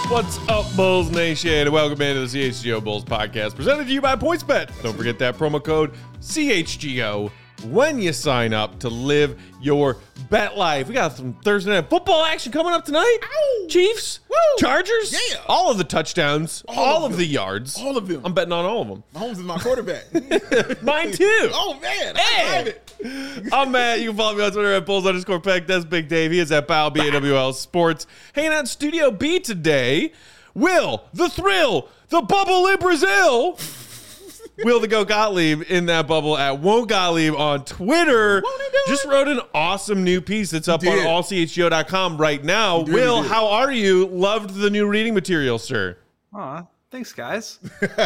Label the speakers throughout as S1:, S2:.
S1: What's up, Bulls Nation? And welcome into the CHGO Bulls podcast, presented to you by PointsBet. Don't forget that promo code CHGO when you sign up to live your bet life. We got some Thursday night football action coming up tonight.
S2: Ow.
S1: Chiefs,
S2: Woo.
S1: Chargers,
S2: Yeah.
S1: all of the touchdowns, all of the yards.
S2: All of them.
S1: I'm betting on all of them.
S2: Mahomes is my quarterback.
S1: Mine too.
S2: Oh, man.
S1: Hey.
S2: I love it.
S1: I'm Matt. You can follow me on Twitter at Bulls_Peck. That's Big Dave. He is at Bow BAWL Sports. Hanging out in Studio B today, Will, the Thrill, the Bubble in Brazil. Will the Go Gottlieb in that bubble at Won't Gottlieb on Twitter. Just wrote an awesome new piece that's up on allchgo.com right now. Will, how are you? Loved the new reading material, sir.
S3: Aw, thanks, guys.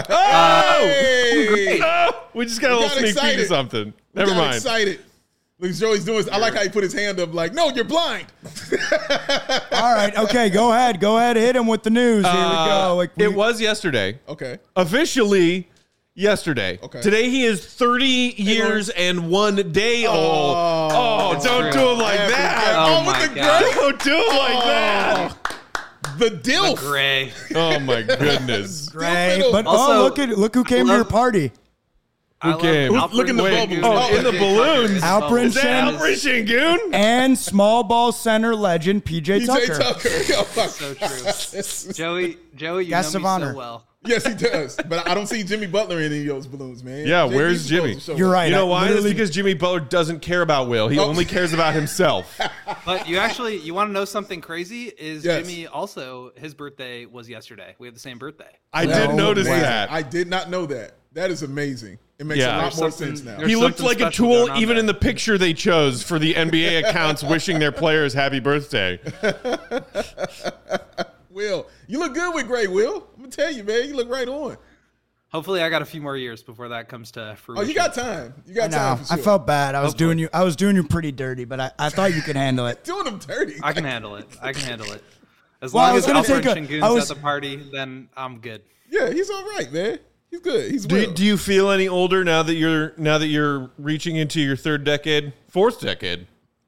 S2: Hey.
S1: We just got a little sneak peek of something. Never mind.
S2: Excited. Look, Joey's doing this. I like how he put his hand up like, no, you're blind.
S4: All right, okay, go ahead, hit him with the news. Here we go.
S1: It was yesterday.
S2: Okay.
S1: Officially yesterday.
S2: Okay.
S1: Today he is 30 years and 1 day old. Oh, don't do him like that.
S3: Oh, my God.
S1: Don't do him like that.
S2: The DILF.
S3: Gray.
S1: Oh, my goodness.
S4: Great, but
S3: Also,
S4: look who came to your party.
S1: Who came?
S2: Look in the bubble.
S1: Oh, in the balloons.
S4: Alperin
S1: Is that Alperin Şengün?
S4: And small ball center legend PJ Tucker.
S2: Oh, my
S3: So
S2: God.
S3: true. Joey, you
S4: Guest
S3: know
S4: of
S3: me
S4: honor.
S3: so well.
S2: Yes, he does. But I don't see Jimmy Butler in any of those balloons, man.
S1: Yeah,
S2: JB's
S1: where's
S2: supposed
S1: Jimmy?
S2: to show
S4: You're
S2: up.
S4: right.
S1: You know
S4: I
S1: why? It's
S4: literally-
S1: because Jimmy Butler doesn't care about Will. He only cares about himself.
S3: But you want to know something crazy? Is
S2: Yes.
S3: Jimmy also, his birthday was yesterday. We have the same birthday.
S1: I did notice
S2: Amazing.
S1: that.
S2: I did not know that. That is amazing. It makes
S1: Yeah.
S2: a lot
S3: There's
S2: more
S3: something-
S2: sense now.
S3: there's
S1: He looked
S3: something
S1: like a
S3: special
S1: tool
S3: going on
S1: even
S3: there.
S1: in the picture they chose for the NBA accounts wishing their players happy birthday.
S2: Will, you look good with Gray, Will. I'm going to tell you, man. You look right on.
S3: Hopefully, I got a few more years before that comes to
S2: Oh,
S3: fruition.
S2: you got time. You got
S4: No,
S2: time for sure.
S4: I felt bad. I was doing you pretty dirty, but I thought you could handle it.
S2: Doing them dirty.
S3: I can handle it. As
S4: Well, I
S3: long
S4: was
S3: as
S4: gonna
S3: Alperin
S4: take
S3: Şengün's at the party, then I'm good.
S2: Yeah, he's all right, man. He's good. He's Will.
S1: Do you feel any older now that you're reaching into your fourth decade?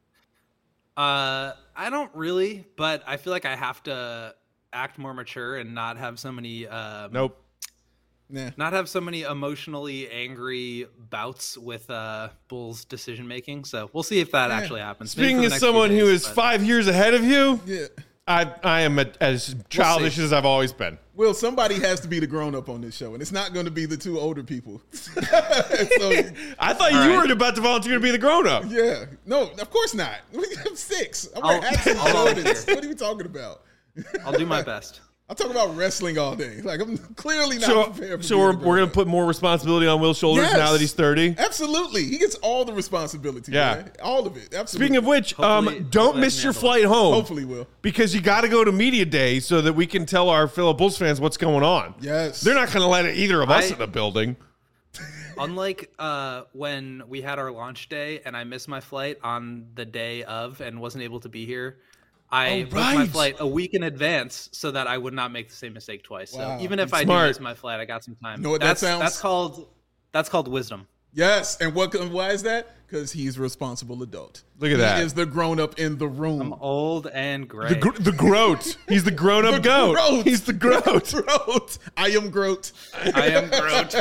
S3: I don't really, but I feel like I have to act more mature and not have so many
S1: Nope.
S2: Nah.
S3: not have so many emotionally angry bouts with Bulls decision making. So we'll see if that actually happens. Maybe for
S1: Speaking
S3: the
S1: as
S3: next few
S1: someone who
S3: days,
S1: is
S3: but
S1: 5 years ahead of you,
S2: Yeah.
S1: I am as childish as I've always been.
S2: Will, somebody has to be the grown up on this show, and it's not going to be the two older people. So,
S1: I thought you were about to volunteer to be the grown up.
S2: yeah. No, of course not. I'm 6. I'm wearing hats and
S3: I'll
S2: Jordans.
S3: volunteer.
S2: What are you talking about?
S3: I'll do my best.
S2: I'm talking about wrestling all day. Like, I'm clearly not prepared for
S1: So
S2: being
S1: we're
S2: a grown-up.
S1: going to put more responsibility on Will's shoulders
S2: Yes.
S1: now that he's 30.
S2: Absolutely. He gets all the responsibility.
S1: Yeah.
S2: Man. All of it. Absolutely.
S1: Speaking of which,
S3: Hopefully-
S1: don't
S3: hopefully I
S1: miss
S3: can
S1: your
S3: handle
S1: flight home.
S2: Hopefully, Will.
S1: Because you got to go to Media Day so that we can tell our fellow Bulls fans what's going on.
S2: Yes.
S1: They're not going to let either of us
S3: I-
S1: in the building.
S3: Unlike when we had our launch day and I missed my flight on the day of and wasn't able to be here, I booked my
S1: right.
S3: flight a week in advance so that I would not make the same mistake twice.
S2: Wow.
S3: So even if I
S1: Smart.
S3: do miss my flight, I got some time.
S2: You know what that sounds-
S3: That's called wisdom.
S2: Yes. And why is that? Because he's a responsible adult.
S1: Look at that.
S2: He is the grown up in the room.
S3: I'm old and gray.
S1: The Groat. He's the grown-up
S2: The
S1: goat.
S2: Groat.
S1: He's the Groat.
S2: Groat. I am Groat.
S3: I am Groot.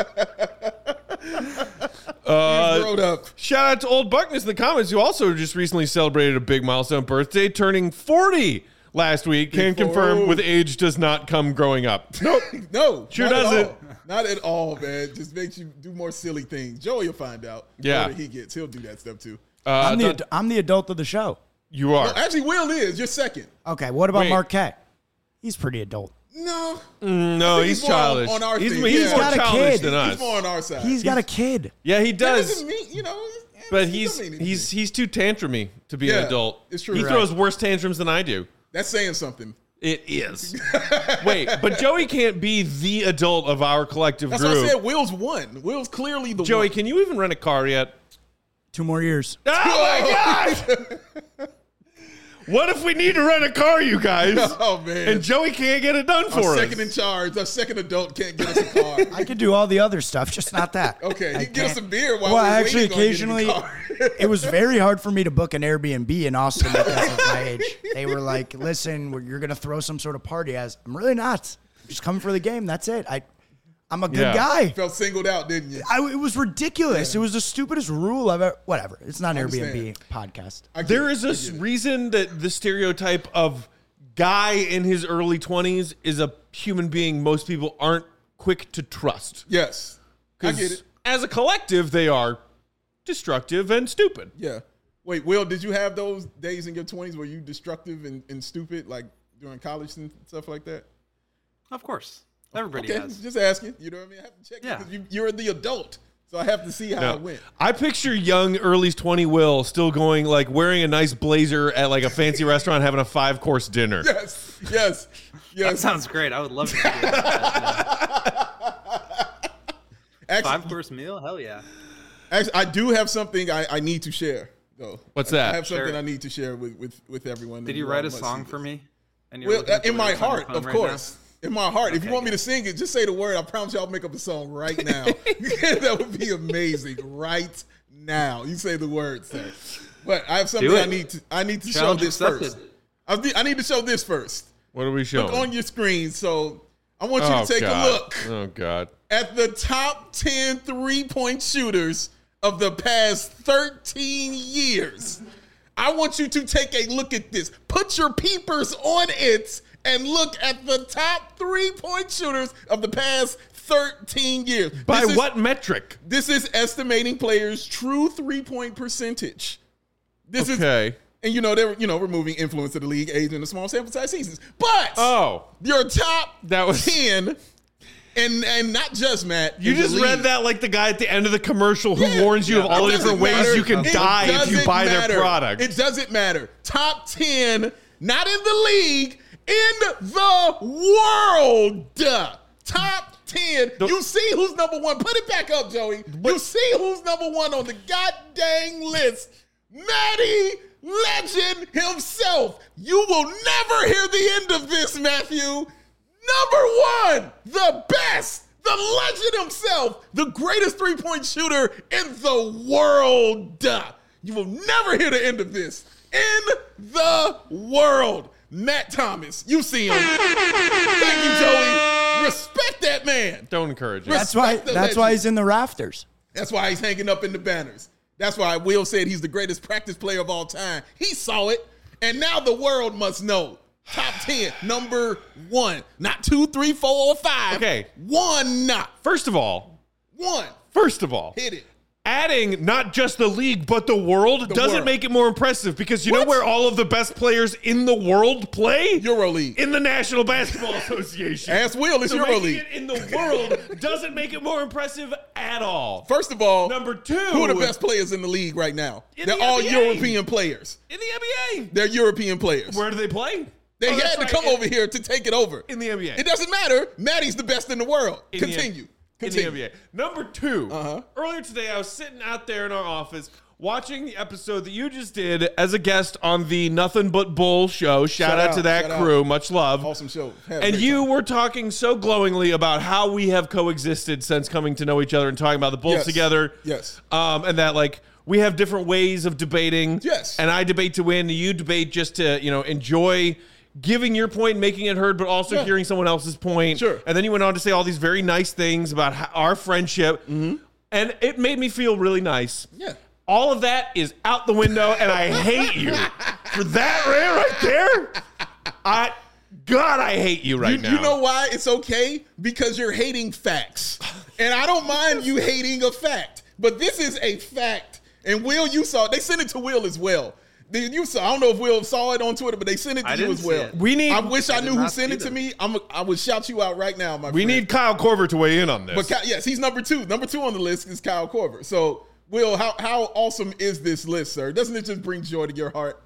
S2: He's grown up.
S1: Shout out to Old Buckness in the comments, who also just recently celebrated a big milestone birthday, turning 40 last week. Can confirm with age does not come growing up. Nope.
S2: No.
S1: Sure
S2: not at
S1: doesn't.
S2: all. Not at all, man. Just makes you do more silly things. Joey will find out.
S1: Yeah.
S2: The older he gets, he'll do that stuff too.
S4: I'm the adult of the show.
S1: You are.
S2: Actually, Will is. You're second.
S4: Okay, what about
S1: Wait.
S4: Marquette? He's pretty adult.
S2: No.
S1: No,
S2: think
S1: he's
S2: he's more
S1: childish.
S2: on our
S1: he's
S2: team.
S1: he's
S2: He's
S1: more
S4: got a
S1: childish
S4: kid.
S1: than us.
S2: He's more on our side.
S4: He's got a kid.
S1: Yeah, he
S2: That
S1: does.
S2: doesn't mean,
S1: But
S2: doesn't mean anything.
S1: he's too tantrumy to be an
S2: Yeah,
S1: adult.
S2: it's true.
S1: He
S2: Right.
S1: throws worse tantrums than I do.
S2: That's saying something.
S1: It is. Wait, but Joey can't be the adult of our collective
S2: That's
S1: group.
S2: why I said Will's one. Will's clearly the
S1: Joey,
S2: one.
S1: can you even rent a car yet?
S4: 2 more years.
S1: Oh my gosh! What if we need to rent a car, you guys?
S2: Oh, man.
S1: And Joey can't get it done
S2: Our
S1: for us.
S2: second in charge, our second adult can't get us a car.
S4: I could do all the other stuff, just not that.
S2: Okay,
S4: I
S2: you can get us
S4: can't.
S2: some beer while
S4: Well,
S2: we're
S4: actually,
S2: waiting on getting
S4: occasionally,
S2: the car.
S4: it was very hard for me to book an Airbnb in Austin because of my age. They were like, "Listen, you're gonna throw some sort of party." As I'm really not. I'm just coming for the game. That's it. I'm a good
S1: Yeah.
S4: guy.
S2: Felt singled out, didn't you?
S4: It was ridiculous. It was the stupidest rule I've ever. Whatever. It's not an Airbnb podcast.
S2: I get
S1: There
S2: it.
S1: is
S2: I
S1: a
S2: get it.
S1: reason that the stereotype of guy in his early 20s is a human being most people aren't quick to trust.
S2: Yes. I get it.
S1: As a collective, they are destructive and stupid.
S2: Yeah. Wait, Will, did you have those days in your 20s where you destructive and stupid, like during college and stuff like that?
S3: Of course. Everybody
S2: Okay,
S3: has.
S2: just asking. You know what I mean? I have to check
S3: Yeah.
S2: because you're the adult, so I have to see how it went.
S1: I picture young, early 20 Will still going, like, wearing a nice blazer at, like, a fancy restaurant having a 5-course dinner.
S2: Yes, yes,
S3: That
S2: yes.
S3: sounds great. I would love to do that.
S2: Actually,
S3: 5-course meal? Hell yeah.
S2: I do have something I need to share, though.
S1: What's
S2: I
S1: that?
S2: have something
S3: Sure.
S2: I need to share with everyone.
S3: Did you write a song for me? And you're
S2: Well,
S3: looking at the
S2: in my
S3: lyrics on your
S2: heart,
S3: phone
S2: of
S3: right
S2: course. In my heart. If you
S3: Okay,
S2: want me to sing it, just say the word. I promise you I'll make up a song right now. That would be amazing. Right now. You say the word, sir. But I have something
S3: Do
S2: I
S3: it.
S2: need to show
S3: Challenge
S2: this
S3: accepted.
S2: first. I need to show this first.
S1: What are we showing?
S2: Look on your screen. So I want you to take
S1: God.
S2: a look
S1: Oh, God.
S2: at the top 10 3-point shooters of the past 13 years. I want you to take a look at this. Put your peepers on it and look at the top 3-point shooters of the past 13 years.
S1: By
S2: This is-
S1: what metric?
S2: This is estimating players' true 3-point percentage. This is,
S1: Okay.
S2: and they're removing influence of the league, age, and the small sample size seasons. But
S1: Oh.
S2: your top
S1: That was-
S2: 10, and not just Matt.
S1: You
S2: in the
S1: just
S2: league.
S1: read that like the guy at the end of the commercial who
S2: Yeah.
S1: warns you of all the
S2: It
S1: different
S2: doesn't
S1: ways
S2: matter.
S1: you can
S2: It
S1: die if you
S2: doesn't
S1: buy
S2: matter.
S1: their product.
S2: It doesn't matter. Top 10, not in the league, in the world. Top 10. You see who's number one. Put it back up, Joey. You see who's number one on the goddamn list. Matty Legend himself. You will never hear the end of this, Matthew. Number one, the best, the legend himself, the greatest 3-point shooter in the world. You will never hear the end of this. In the world. Matt Thomas. You see him. Thank you, Joey. Respect that man.
S1: Don't encourage it.
S2: Respect the
S4: That's why
S2: legend.
S4: he's in the rafters.
S2: That's why he's hanging up in the banners. That's why Will said he's the greatest practice player of all time. He saw it, and now the world must know. Top 10, number one. Not 2, 3, 4, or 5.
S1: Okay.
S2: One, not.
S1: First of all,
S2: One.
S1: Hit
S2: it.
S1: Adding not just the league, but the world doesn't
S2: world.
S1: make it more impressive because you know
S2: What?
S1: where all of the best players in the world play?
S2: EuroLeague.
S1: In the National Basketball Association.
S2: Ask Will, it's
S1: so making
S2: EuroLeague.
S1: it in the world doesn't make it more impressive at all.
S2: First of all,
S1: Number two.
S2: who are the best players in the league right now?
S1: In
S2: They're
S1: the
S2: all
S1: NBA.
S2: European players.
S1: In the NBA.
S2: They're European players.
S1: Where do they play?
S2: They
S1: Oh,
S2: had
S1: that's
S2: to
S1: right.
S2: come over here to take it over.
S1: In the NBA.
S2: It doesn't matter. Maddie's the best in the world.
S1: In the
S2: Continue.
S1: In the NBA. Number two,
S2: Uh-huh.
S1: earlier today, I was sitting out there in our office watching the episode that you just did as a guest on the Nothing But Bull show. Shout out to that
S2: shout
S1: crew.
S2: out.
S1: Much love.
S2: Awesome show. Had a
S1: And
S2: great
S1: you
S2: time.
S1: were talking so glowingly about how we have coexisted since coming to know each other and talking about the Bulls
S2: Yes.
S1: together.
S2: Yes.
S1: And that, like, we have different ways of debating.
S2: Yes.
S1: And I debate to win. You debate just to, enjoy giving your point, making it heard, but also
S2: Yeah.
S1: hearing someone else's point.
S2: Sure.
S1: And then you went on to say all these very nice things about our friendship. And it made me feel really nice.
S2: Yeah.
S1: All of that is out the window, and I hate you for that right there. I hate you right now.
S2: You know why it's okay? Because you're hating facts. And I don't mind you hating a fact. But this is a fact. And Will, you saw it. They sent it to Will as well. I don't know if Will saw it on Twitter, but they sent it to
S3: I
S2: you
S3: didn't
S2: as well.
S3: see it.
S2: I wish I
S3: did
S2: knew who
S3: not
S2: sent
S3: see
S2: it to
S3: them.
S2: me. I would shout you out right now, my
S1: We
S2: friend.
S1: need Kyle Korver to weigh in on this.
S2: But yes, he's number two. Number two on the list is Kyle Korver. So, Will, how awesome is this list, sir? Doesn't it just bring joy to your heart?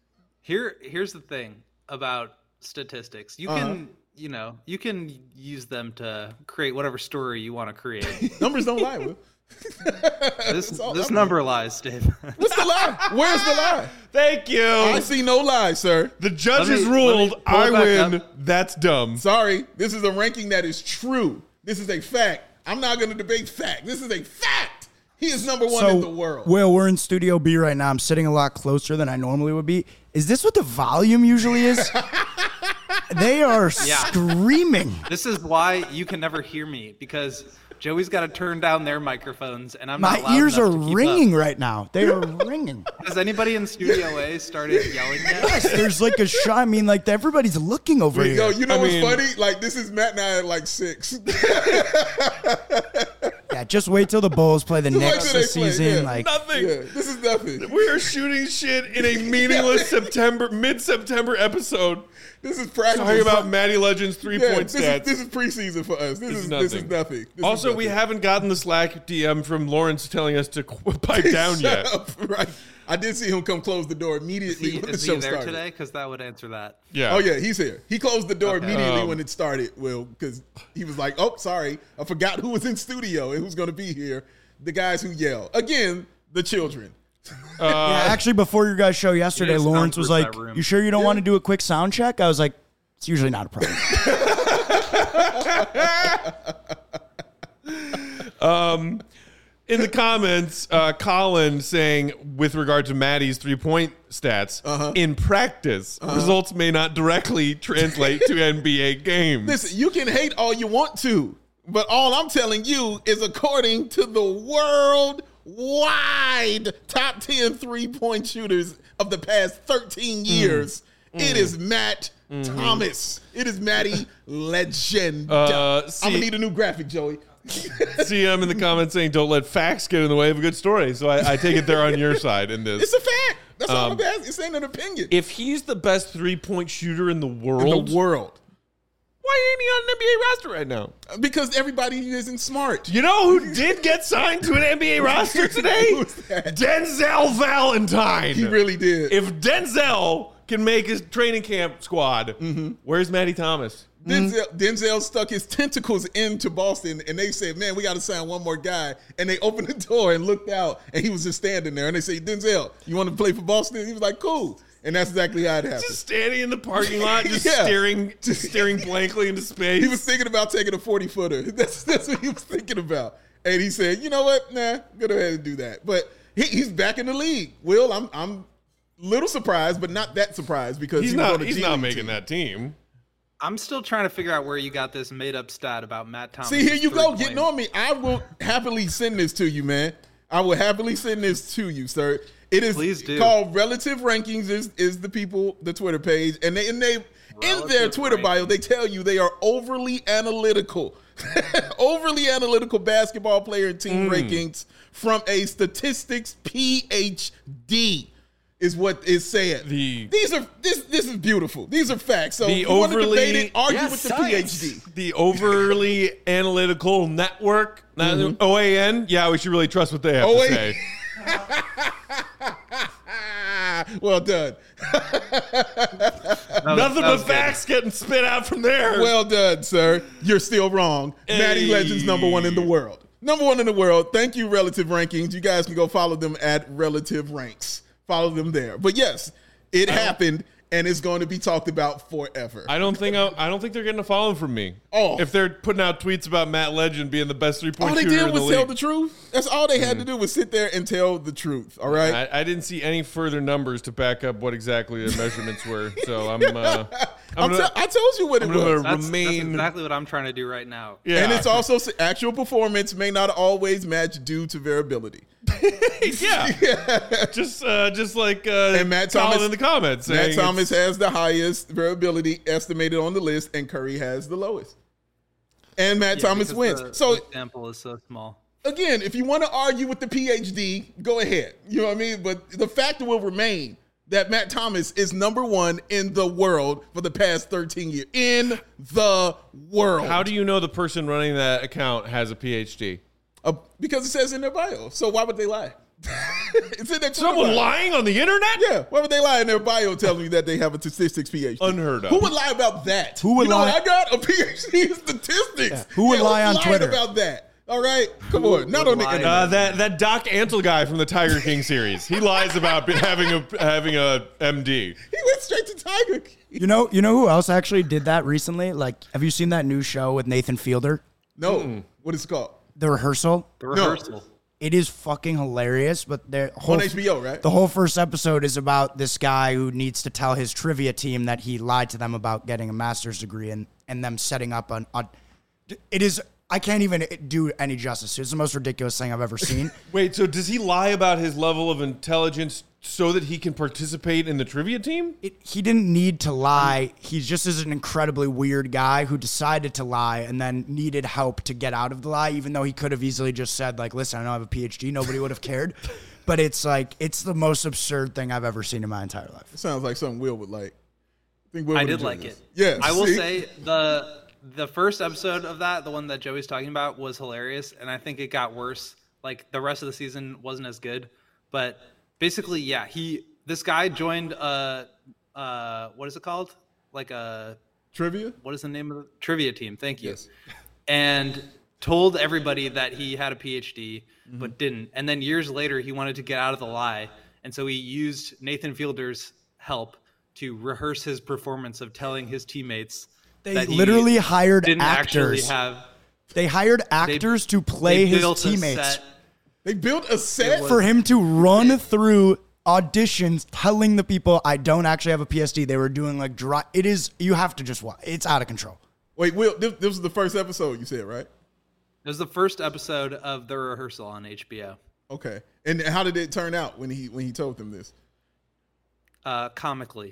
S3: Here's the thing about statistics. You can, you can use them to create whatever story you want to create.
S2: Numbers don't lie, Will.
S3: This number lies, Dave.
S2: What's the lie? Where's the lie?
S1: Thank you.
S2: I see no lies, sir.
S1: The judges
S3: Let me
S1: ruled.
S3: pull
S1: I
S3: it back
S1: win.
S3: up.
S1: That's dumb.
S2: Sorry, this is a ranking that is true. This is a fact. I'm not going to debate fact. This is a fact. He is number one in the world.
S4: Will, we're in Studio B right now. I'm sitting a lot closer than I normally would be. Is this what the volume usually is? They are screaming.
S3: This is why you can never hear me, because Joey's got to turn down their microphones, and I'm not
S4: My
S3: loud
S4: ears are
S3: enough to keep
S4: ringing
S3: up.
S4: right now. They are ringing.
S3: Has anybody in Studio A started yelling yet?
S4: Yes, there's like a shot. I mean, like everybody's looking over here.
S2: Yo, you know what's
S1: mean-
S2: funny? Like, this is Matt and I at like 6.
S4: Yeah, just wait till the Bulls play the
S2: wait
S4: Knicks
S2: till
S4: this
S2: they play,
S4: season.
S2: yeah.
S4: Like,
S1: Nothing.
S2: Yeah, this is nothing.
S1: We are shooting shit in a meaningless mid-September episode.
S2: This is practice.
S1: Talking about Matty Legend's
S2: Yeah,
S1: three-point stats.
S2: This is preseason for us. This is nothing. This is
S1: Also, we
S2: nothing.
S1: haven't gotten the Slack DM from Lawrence telling us to pipe down
S2: Shut
S1: yet.
S2: up. Right. I did see him come close the door immediately when the
S3: Is
S2: show
S3: he there
S2: started.
S3: today? Because that would answer that.
S1: Yeah.
S2: Oh yeah, he's here. He closed the door
S3: Okay.
S2: immediately when it started, Will, because he was like, "Oh, sorry, I forgot who was in studio and who's going to be here." The guys who yell again, the children.
S4: yeah, actually, before your guys' show yesterday,
S3: just
S4: Lawrence was
S3: soundproof
S4: like,
S3: that room.
S4: "You sure you don't want to do a quick sound check?" I was like, "It's usually not a problem."
S1: In the comments, Colin saying, with regard to Matty's three-point stats, in practice, results may not directly translate to NBA games.
S2: Listen, you can hate all you want to, but all I'm telling you is according to the worldwide top 10 3-point shooters of the past 13 years, it is Matt Thomas. It is Matty Legend. I'm going to need a new graphic, Joey.
S1: CM in the comments saying, don't let facts get in the way of a good story. So I take it they're on your side in this.
S2: It's a fact. That's all I'm asking. It's ain't an opinion.
S1: If he's the best three-point shooter in the world,
S2: In the world.
S1: why ain't he on an NBA roster right now?
S2: Because everybody isn't smart.
S1: You know who did get signed to an NBA roster today?
S2: Who's that?
S1: Denzel Valentine.
S2: He really did.
S1: If Denzel can make his training camp squad, where's Matty Thomas?
S2: Denzel stuck his tentacles into Boston, and they said, man, we got to sign one more guy. And they opened the door and looked out, and he was just standing there. And they say, Denzel, you want to play for Boston? He was like, cool. And that's exactly how it happened.
S1: Just standing in the parking lot, just
S2: Yeah.
S1: staring blankly into space.
S2: He was thinking about taking a 40-footer. That's what he was thinking about. And he said, you know what? Nah, go ahead and do that. But he's back in the league. Will, I'm a little surprised, but not that surprised because
S1: he's
S2: he was
S1: not.
S2: on the
S1: He's
S2: G
S1: not
S2: League
S1: making
S2: team.
S1: that team.
S3: I'm still trying to figure out where you got this made-up stat about Matt Thomas.
S2: See, here you go, getting on me. I will happily send this to you, man. I will happily send this to you, sir. It is
S3: Please do.
S2: called Relative Rankings. Is the Twitter page, and they in their
S3: Relative
S2: Twitter bio,
S3: Rankings.
S2: they tell you they are overly analytical, basketball player and team rankings from a statistics PhD. Is what is said. This is beautiful. These are facts. So
S1: The
S2: if you want to
S1: overly-
S2: debate it, argue
S5: Yes,
S2: with the
S5: science.
S2: PhD.
S1: The overly analytical network, OAN. Yeah, we should really trust what they have to
S2: OAN.
S1: say.
S2: Well done.
S1: Nothing but facts getting spit out from there.
S2: Well done, sir. You're still wrong. Matty
S1: Hey.
S2: Legend's number one in the world. Number one in the world. Thank you, Relative Rankings. You guys can go follow them at Relative Ranks. Follow them there. But yes, it happened, and it's going to be talked about forever.
S1: I don't think they're getting a following from me.
S2: Oh.
S1: If they're putting out tweets about Matt Legend being the best three-point
S2: all they
S1: shooter
S2: did
S1: in the
S2: was tell
S1: league.
S2: the truth. That's all they had to do was sit there and tell the truth. All right.
S1: I didn't see any further numbers to back up what exactly the measurements were. So I
S2: told you what it was.
S3: That's
S1: remain.
S3: exactly what I'm trying to do right now.
S1: Yeah.
S2: And it's also actual performance may not always match due to variability.
S1: yeah. Just like
S2: And Matt
S1: Colin
S2: Thomas
S1: in the comments.
S2: Matt
S1: saying
S2: Thomas
S1: it's-
S2: has the highest variability estimated on the list, and Curry has the lowest. And Matt Thomas
S3: because
S2: wins.
S3: The
S2: So
S3: sample is so small.
S2: again, if you want to argue with the PhD, go ahead. You know what I mean? But the fact will remain that Matt Thomas is number one in the world for the past 13 years. In the world.
S1: How do you know the person running that account has a PhD?
S2: Because it says in their bio. So why would they lie? It's in their Twitter
S1: Someone
S2: bio.
S1: lying on the internet?
S2: Yeah, why would they lie in their bio telling you that they have a statistics PhD?
S1: Unheard of.
S2: Who would lie about that?
S4: Who would
S2: you know,
S4: lie-
S2: I got a PhD in statistics.
S4: Who would lie on
S2: lying
S4: Twitter?
S2: about that? All right, come on. Not on the internet.
S1: That Doc Antle guy from the Tiger King series. He lies about having a MD.
S2: He went straight to Tiger King.
S4: You know who else actually did that recently? Like, have you seen that new show with Nathan Fielder?
S2: No. What is it called?
S4: The Rehearsal.
S3: The Rehearsal.
S4: It is fucking hilarious, but the whole
S2: On HBO, right?
S4: The whole first episode is about this guy who needs to tell his trivia team that he lied to them about getting a master's degree and them setting up it is. I can't even do any justice. It's the most ridiculous thing I've ever seen.
S1: Wait, so does he lie about his level of intelligence so that he can participate in the trivia team?
S4: He didn't need to lie. He just is an incredibly weird guy who decided to lie and then needed help to get out of the lie, even though he could have easily just said, like, listen, I don't have a PhD. Nobody would have cared. But it's like, it's the most absurd thing I've ever seen in my entire life.
S2: It sounds like something Will would like.
S3: I did like it.
S2: Yeah.
S3: I will say the first episode of that, the one that Joey's talking about, was hilarious, and I think it got worse. Like, the rest of the season wasn't as good. But basically, yeah, this guy joined what is it called? Like a
S2: trivia?
S3: What is the name of the trivia team? Thank you.
S2: Yes.
S3: And told everybody that he had a PhD, but didn't. And then years later, he wanted to get out of the lie, and so he used Nathan Fielder's help to rehearse his performance of telling his teammates
S4: They literally hired
S3: didn't
S4: actors.
S3: actually have.
S4: They hired actors to play his teammates.
S2: They built a set
S4: For him to run through auditions telling the people, I don't actually have a PhD. They were doing like dry. It is, you have to just watch. It's out of control.
S2: Wait, Will, this was the first episode you said, right?
S3: It was the first episode of The Rehearsal on HBO.
S2: Okay. And how did it turn out when he told them this?
S3: Comically.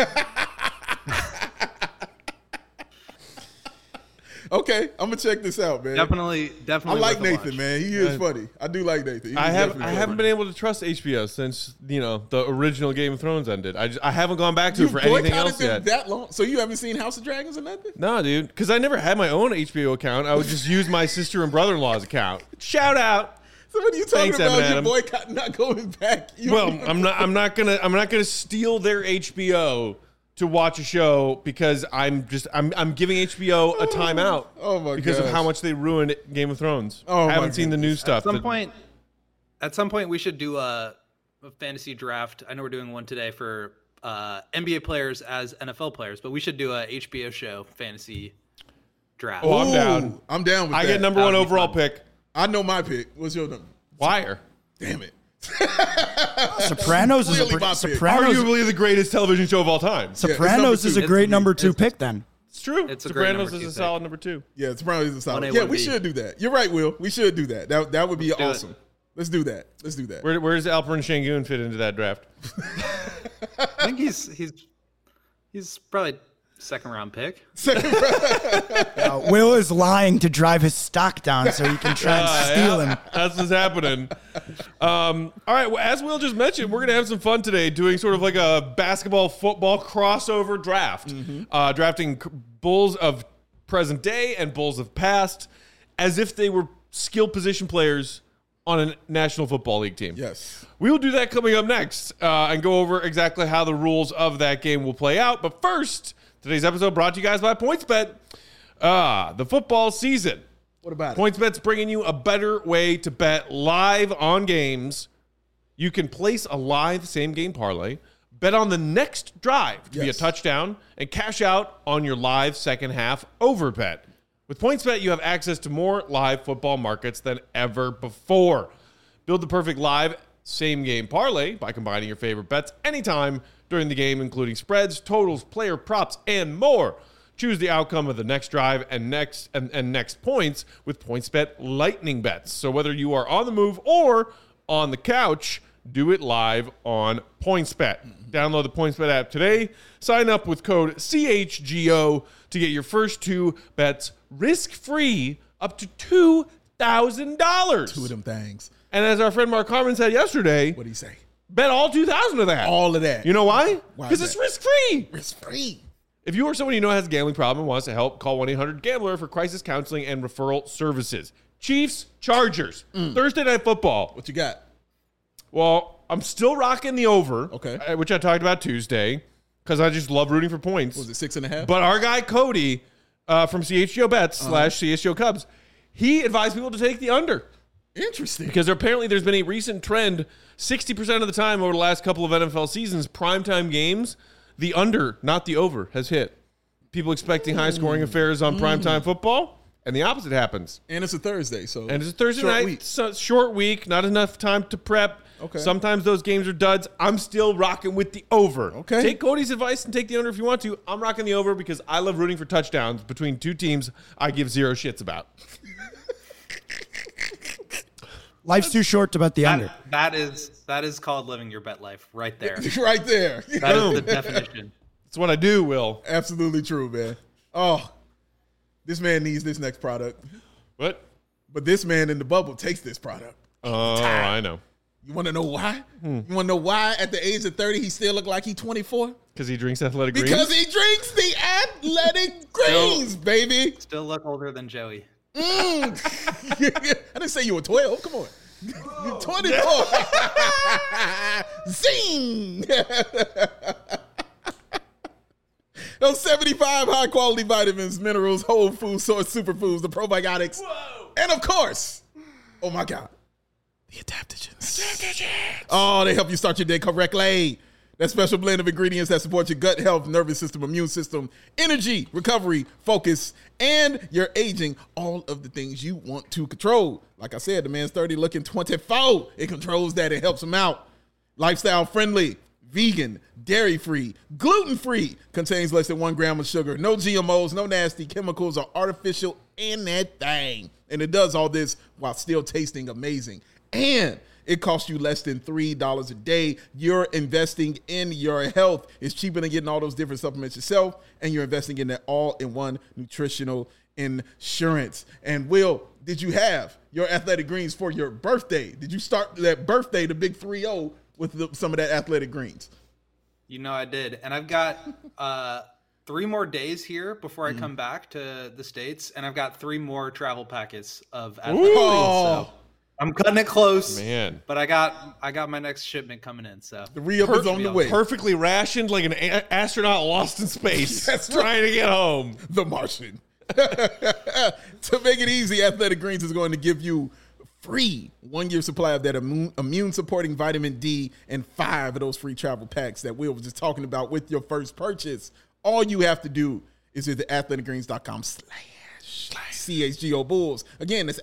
S2: Okay, I'm gonna check this out, man.
S3: Definitely.
S2: I like
S3: worth a
S2: Nathan,
S3: watch.
S2: man. He is funny. I do like Nathan.
S1: I haven't been able to trust HBO since the original Game of Thrones ended. I haven't gone back to it for anything else yet.
S2: That long? So you haven't seen House of Dragons or nothing?
S1: No, dude, because I never had my own HBO account. I would just use my sister and brother-in-law's account. Shout out.
S2: So what are you talking
S1: Thanks,
S2: about?
S1: Evan
S2: Your
S1: Adam.
S2: boycott not going back.
S1: I'm not gonna steal their HBO to watch a show because I'm giving HBO a timeout.
S2: Oh my
S1: because of
S2: gosh.
S1: how much they ruined Game of Thrones.
S2: Oh,
S1: I
S2: my
S1: haven't seen the new
S2: goodness.
S1: stuff.
S3: At some point, we should do a fantasy draft. I know we're doing one today for NBA players as NFL players, but we should do a HBO show fantasy draft.
S1: Oh, I'm down.
S2: I'm down with that.
S1: I get number one
S3: That would be
S1: overall
S3: fun.
S1: pick.
S2: I know my pick. What's your number?
S1: Wire.
S2: Damn it.
S4: Sopranos is
S2: Clearly my pick.
S1: Arguably the greatest television show of all time.
S4: Sopranos is a great number two
S3: It's-
S4: pick then.
S1: It's true.
S3: It's a great
S1: Sopranos
S3: number
S1: is
S3: two
S1: a
S3: pick.
S1: solid number 2.
S2: Yeah, it's probably a solid.
S3: 1A,
S2: Yeah, we
S3: 1B.
S2: should do that. You're right, Will. We should do that. That would be
S3: do
S2: awesome.
S3: it.
S2: Let's do that. Let's do that.
S1: Where does Alperin Şengün fit into that draft?
S3: I think he's probably second round pick.
S4: Will is lying to drive his stock down so he can try and steal him.
S1: That's what's happening. All right. Well, as Will just mentioned, we're going to have some fun today doing sort of like a basketball football crossover draft, drafting Bulls of present day and Bulls of past as if they were skill position players on a National Football League team.
S2: Yes.
S1: We will do that coming up next and go over exactly how the rules of that game will play out. But first, today's episode brought to you guys by PointsBet. The football season.
S2: What about it?
S1: PointsBet's bringing you a better way to bet live on games. You can place a live same-game parlay, bet on the next drive to be a
S2: Yes.
S1: touchdown, and cash out on your live second-half over bet. With PointsBet, you have access to more live football markets than ever before. Build the perfect live same-game parlay by combining your favorite bets anytime during the game, including spreads, totals, player props, and more. Choose the outcome of the next drive and next points with PointsBet Lightning Bets. So whether you are on the move or on the couch, do it live on PointsBet. Download the PointsBet app today. Sign up with code CHGO to get your first 2 bets risk-free up to $2,000.
S2: 2 of them things.
S1: And as our friend Mark Harmon said yesterday,
S2: What do you say?
S1: bet all 2,000 of that.
S2: All of that.
S1: You know why?
S2: Why
S1: Because
S2: is
S1: it's
S2: that?
S1: risk-free.
S2: It's free.
S1: If you or someone you know has a gambling problem and wants to help, call 1-800-GAMBLER for crisis counseling and referral services. Chiefs, Chargers, Thursday Night Football.
S2: What you got?
S1: Well, I'm still rocking the over,
S2: Okay.
S1: which I talked about Tuesday, because I just love rooting for points.
S2: Was it 6.5?
S1: But our guy Cody from CHGO Bets /CHGO Cubs, he advised people to take the under.
S2: Interesting.
S1: Because apparently there's been a recent trend, 60% of the time over the last couple of NFL seasons, primetime games, the under, not the over, has hit. People expecting high-scoring affairs on primetime football, and the opposite happens.
S2: And it's a Thursday,
S1: And it's a Thursday
S2: short
S1: night,
S2: week.
S1: so short week, not enough time to prep.
S2: Okay.
S1: Sometimes those games are duds. I'm still rocking with the over.
S2: Okay.
S1: Take Cody's advice and take the under if you want to. I'm rocking the over because I love rooting for touchdowns between two teams I give zero shits about.
S4: Life's too short to bet the under.
S3: That is called living your bet life right there.
S2: Right there.
S3: That is the definition.
S1: That's what I do, Will.
S2: Absolutely true, man. Oh, this man needs this next product.
S1: What?
S2: But this man in the bubble takes this product.
S1: Oh, I know.
S2: You want to know why? You want to know why at the age of 30 he still look like he's 24?
S1: Because he drinks athletic greens?
S2: Because he drinks the athletic greens, baby.
S3: Still look older than Joey.
S2: I didn't say you were 12. Come on. You're 24. Zing. Those 75 high-quality vitamins, minerals, whole food source superfoods, the probiotics, and of course, oh my God, the adaptogens. Oh, they help you start your day correctly. That special blend of ingredients that support your gut health, nervous system, immune system, energy, recovery, focus, and your aging. All of the things you want to control. Like I said, the man's 30 looking 24. It controls that. It helps him out. Lifestyle friendly, vegan, dairy-free, gluten-free, contains less than 1 gram of sugar, no GMOs, no nasty chemicals or artificial anything. And it does all this while still tasting amazing. And it costs you less than $3 a day. You're investing in your health. It's cheaper than getting all those different supplements yourself, and you're investing in that all-in-one nutritional insurance. And Will, did you have your athletic greens for your birthday? Did you start that birthday, the big 3-0, with some of that athletic greens?
S3: You know I did. And I've got 3 more days here before I come back to the States, and I've got 3 more travel packets of athletic greens. So I'm cutting it close,
S1: Man.
S3: But I got my next shipment coming in. So
S2: The re-up is on the way.
S1: Perfectly rationed like an astronaut lost in space.
S2: That's right.
S1: Trying to get home.
S2: The Martian. To make it easy, Athletic Greens is going to give you free 1-year supply of that immune supporting vitamin D and 5 of those free travel packs that Will was just talking about with your first purchase. All you have to do is visit athleticgreens.com/CHGO Bulls. Again, that's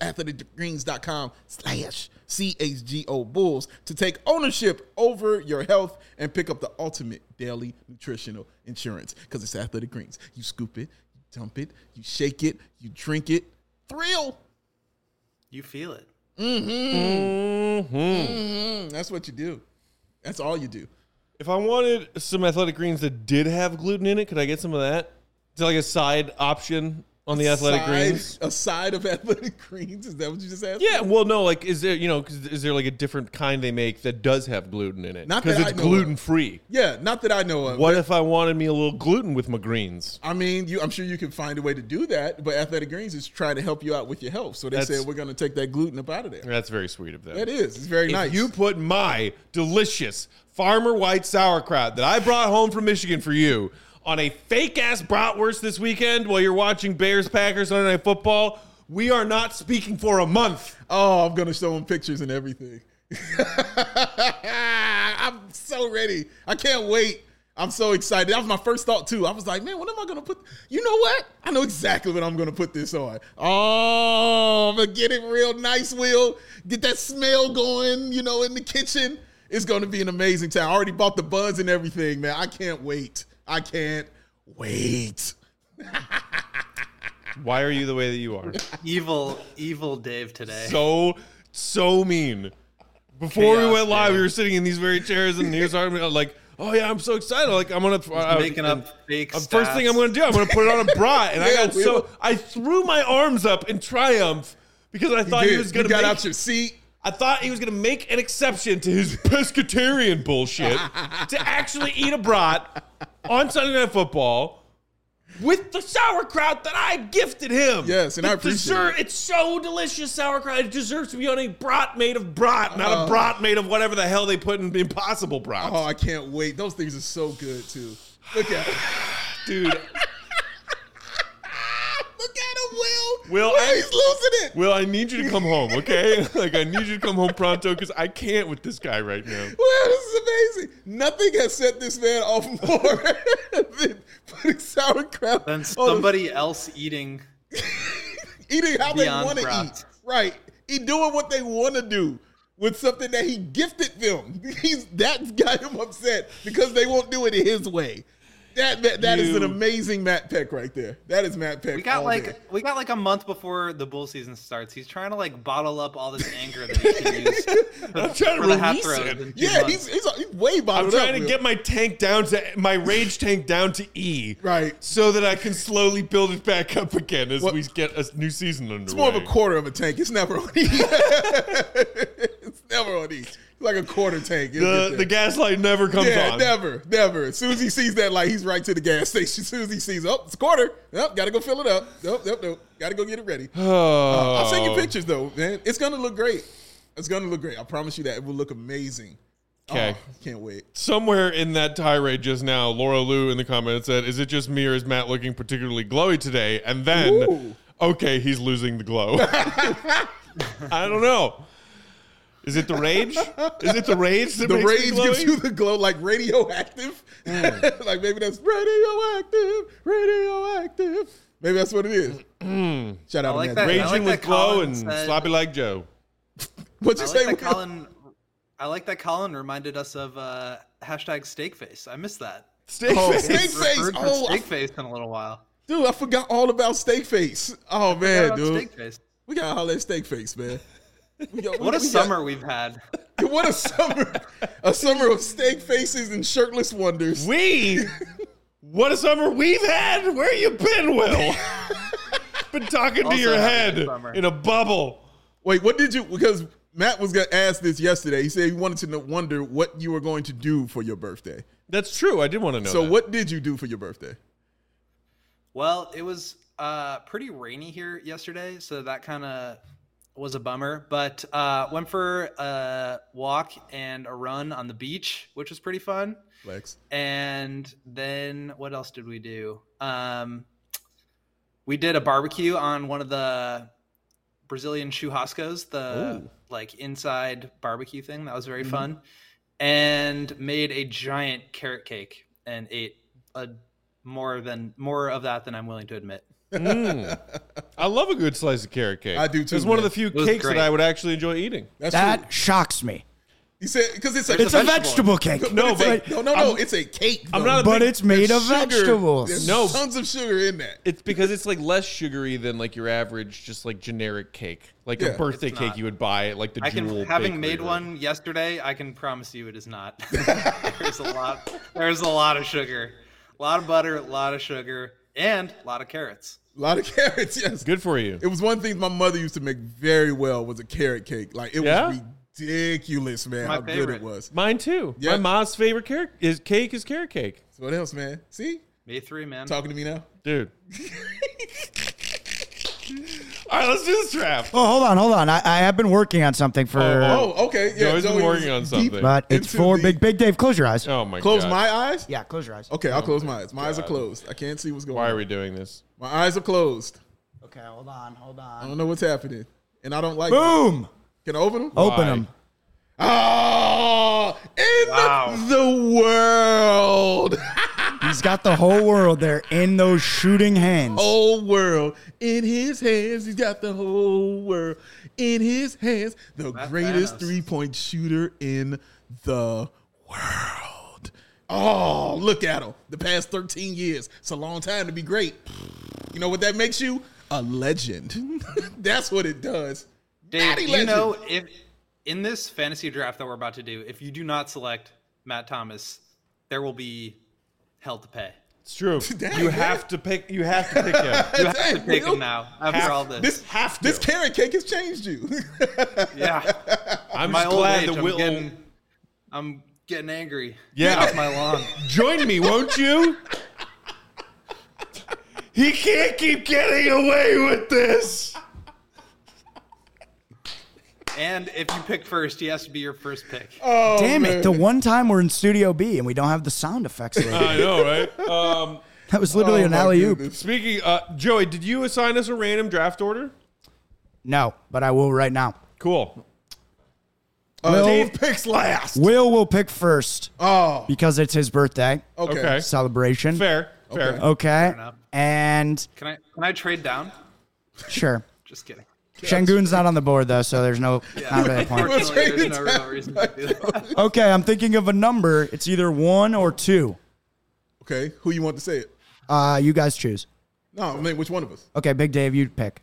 S2: athleticgreens.com/CHGO Bulls to take ownership over your health and pick up the ultimate daily nutritional insurance. Because it's Athletic Greens. You scoop it, you dump it, you shake it, you drink it. Thrill.
S3: you feel it.
S2: That's what you do. That's all you do.
S1: If I wanted some athletic greens that did have gluten in it, could I get some of that? Is it like a side option on the athletic greens?
S2: A side of Athletic Greens? Is that what you just asked?
S1: Yeah, well, no, like, is there, is there like a different kind they make that does have gluten in it?
S2: Not
S1: because
S2: that
S1: it's
S2: I know of.
S1: gluten free.
S2: Yeah, not that I know of.
S1: What if I wanted me a little gluten with my greens?
S2: I mean, I'm sure you can find a way to do that, but Athletic Greens is trying to help you out with your health. So they said we're going to take that gluten up out of there.
S1: That's very sweet of them.
S2: That is. It's very nice.
S1: If you put my delicious Farmer White sauerkraut that I brought home from Michigan for you on a fake-ass bratwurst this weekend while you're watching Bears-Packers Sunday Night Football, we are not speaking for a month.
S2: Oh, I'm going to show them pictures and everything. I'm so ready. I can't wait. I'm so excited. That was my first thought, too. I was like, man, what am I going to put? You know what? I know exactly what I'm going to put this on. Oh, I'm going to get it real nice, Will. Get that smell going, in the kitchen. It's going to be an amazing time. I already bought the buns and everything, man. I can't wait. I can't wait.
S1: Why are you the way that you are?
S3: Evil Dave today.
S1: So mean. Before
S3: Chaos,
S1: we went live,
S3: Dave.
S1: we were sitting in these very chairs, and he was talking about like, "Oh yeah, I'm so excited! Like I'm gonna
S3: making up fake
S1: First
S3: stats.
S1: thing I'm gonna do, I'm gonna put it on a bra." And
S2: Yeah,
S1: I threw my arms up in triumph because I thought he was gonna.
S2: You got out your seat.
S1: I thought he was going to make an exception to his pescatarian bullshit to actually eat a brat on Sunday Night Football with the sauerkraut that I gifted him.
S2: Yes, and I appreciate it.
S1: It's so delicious, sauerkraut. It deserves to be on a brat made of brat, not a brat made of whatever the hell they put in Impossible brats.
S2: Oh, I can't wait. Those things are so good, too. Look at it.
S1: Dude.
S2: Look at him, Will.
S1: Will,
S2: He's losing it.
S1: Will, I need you to come home, okay? Like, I need you to come home pronto because I can't with this guy right now.
S2: Well, this is amazing. Nothing has set this man off more than putting sauerkraut.
S3: Then
S2: on
S3: somebody else eating.
S2: eating how they
S3: Beyond
S2: want to
S3: Brats.
S2: eat. Right. He doing what they want to do with something that he gifted them. That got him upset because they won't do it his way. That is an amazing Matt Peck right there. That is Matt Peck.
S3: We got like a month before the bull season starts. He's trying to like bottle up all this anger that he can use.
S1: I'm trying to
S3: the hat
S1: release
S3: throws
S1: it.
S3: in 2
S2: Yeah,
S3: months.
S2: he's way
S1: I'm
S2: bottled up.
S1: trying to get my tank down to my rage tank down to E,
S2: Right.
S1: So that I can slowly build it back up again as we get a new season underway.
S2: It's more of a quarter of a tank. It's never on E. It's never on E. It's like a quarter tank.
S1: The gaslight never comes on.
S2: Never. As soon as he sees that light, he's right to the gas station. As soon as he sees, oh, it's a quarter. Nope, gotta go fill it up. Nope. Gotta go get it ready. I'll send you pictures though, man. It's gonna look great. I promise you that. It will look amazing.
S1: Okay.
S2: Oh, can't wait.
S1: Somewhere in that tirade just now, Laura Lou in the comments said, "Is it just me or is Matt looking particularly glowy today?" And then,
S2: Ooh.
S1: okay, he's losing the glow. I don't know. Is it the rage? Is it the rage that
S2: The
S1: makes me
S2: rage gives
S1: glowy?
S2: you the glow, like radioactive. Like maybe that's radioactive. Maybe that's what it is. Shout out
S3: I like
S2: to
S3: that.
S2: Matt.
S1: Raging
S3: I like
S1: with
S3: that
S1: glow
S3: Colin
S1: and
S3: said-
S1: sloppy like Joe.
S2: What'd you say? Will?
S3: I like that Colin reminded us of hashtag Steakface. I missed that.
S1: Steak
S2: Oh,
S1: face.
S2: steak face.
S3: Heard from
S2: Oh,
S3: Steakface in a little while.
S2: dude, I forgot all about Steakface. Oh man,
S3: Shout out
S2: dude,
S3: Steakface.
S2: we gotta holler at Steakface, man.
S3: What a summer we've had.
S2: What a summer! A summer of steak faces and shirtless wonders.
S1: What a summer we've had. Where you been, Will? Been talking to
S3: Also
S1: your
S3: having a
S1: head
S3: summer.
S1: in a bubble.
S2: Wait, what did you? Because Matt was gonna ask this yesterday. He said he wanted to wonder what you were going to do for your birthday.
S1: That's true. I did want to know.
S2: So,
S1: that.
S2: what did you do for your birthday?
S3: Well, it was pretty rainy here yesterday, so that kind of was a bummer. But went for a walk and a run on the beach, which was pretty fun.
S2: Lex.
S3: And then what else did we do? We did a barbecue on one of the Brazilian churrascos, the like inside barbecue thing. That was very fun. And made a giant carrot cake and ate more of that than I'm willing to admit.
S1: I love a good slice of carrot cake.
S2: I do, too,
S1: It's one of
S2: man.
S1: the few
S3: was
S1: cakes
S3: great.
S1: that I would actually enjoy eating.
S2: That's
S4: That
S2: true.
S4: shocks me.
S2: He said because it's a
S4: It's a vegetable cake.
S2: No,
S1: but
S2: no, it's a cake.
S1: I'm
S2: though.
S1: not a
S4: But
S1: big-
S4: it's made of
S2: Sugar.
S4: vegetables.
S2: There's
S1: No.
S2: tons of sugar in that.
S1: It's because it's like less sugary than like your average, just like generic cake, like
S2: Yeah.
S1: a birthday
S3: It's
S1: cake
S3: not.
S1: you would buy at like the
S3: I can,
S1: Jewel
S3: having
S1: Bakery
S3: made
S1: or-
S3: one yesterday, I can promise you it is not. There's a lot of sugar, a lot of butter, a lot of sugar, and a lot of carrots.
S2: A lot of carrots. Yes.
S1: Good for you.
S2: It was one thing my mother used to make very well was a carrot cake. Like it
S1: Yeah?
S2: was ridiculous, man.
S3: My
S2: how good
S3: favorite.
S2: it was.
S1: Mine too.
S2: Yeah.
S1: My mom's favorite cake is carrot cake,
S2: So what else, man? See,
S3: May 3, man.
S2: talking to me now.
S1: dude. All right, let's do this trap.
S4: Oh, hold on. I have been working on something for,
S2: Oh, okay. Yeah,
S1: Joey's been
S2: Joey
S1: working
S2: was
S1: on
S2: deep
S1: something.
S4: but it's
S2: into
S4: for
S2: the-
S4: Big Dave. Close your eyes.
S1: Oh my
S2: Close
S1: god.
S2: my eyes.
S4: Yeah, close your eyes.
S2: Okay, I'll close my eyes. My eyes are
S1: God.
S2: closed. I can't see what's going
S1: Why
S2: on.
S1: are we doing this?
S2: My eyes are closed.
S4: Okay, hold on.
S2: I don't know what's happening, and I don't like.
S4: Boom!
S2: It. Can I open them?
S4: Open
S1: Why?
S4: them.
S2: Oh, in
S3: Wow.
S2: the world.
S4: He's got the whole world there in those shooting hands.
S2: Whole world in his hands. He's got the whole world in his hands. The
S3: That's
S2: greatest
S3: Thanos.
S2: 3-point shooter in the world. Oh, look at him. The past 13 years. It's a long time to be great. You know what that makes you? A legend. That's what it does.
S3: Dave,
S2: Natty
S3: you
S2: legend.
S3: know, if in this fantasy draft that we're about to do, if you do not select Matt Thomas, there will be hell to pay.
S1: It's true.
S2: Dang,
S1: you
S2: man.
S1: have to pick. You have to pick him.
S3: You have to
S2: Dang,
S3: pick
S2: Will.
S3: him now after all this.
S2: This carrot cake has changed you.
S3: Yeah,
S1: I'm
S3: my
S1: just
S3: old
S1: glad
S3: age,
S1: that
S3: I'm getting angry.
S1: Yeah.
S3: Get off my lawn.
S1: Join me, won't you? He can't keep getting away with this.
S3: And if you pick first, he has to be your first pick.
S2: Oh,
S4: Damn
S2: man.
S4: it. The one time we're in Studio B and we don't have the sound effects ready.
S1: I know, right?
S4: That was literally
S2: Oh,
S4: an
S2: my
S4: alley-oop.
S2: goodness.
S1: Speaking, Joey, did you assign us a random draft order?
S4: No, but I will right now.
S1: Cool.
S2: Dave picks last.
S4: Will pick first
S2: Oh,
S4: because it's his birthday
S1: Okay.
S4: celebration.
S1: Fair.
S4: Okay.
S3: enough.
S4: And
S3: Can I trade down?
S4: sure.
S3: Just kidding.
S4: Shangun's not on the board though, so there's not really a point.
S3: Unfortunately, there's no real reason to do that.
S4: Okay, I'm thinking of a number. It's either 1 or 2.
S2: Okay, who you want to say it?
S4: You guys choose.
S2: No, I mean, which one of us?
S4: Okay, Big Dave, you pick.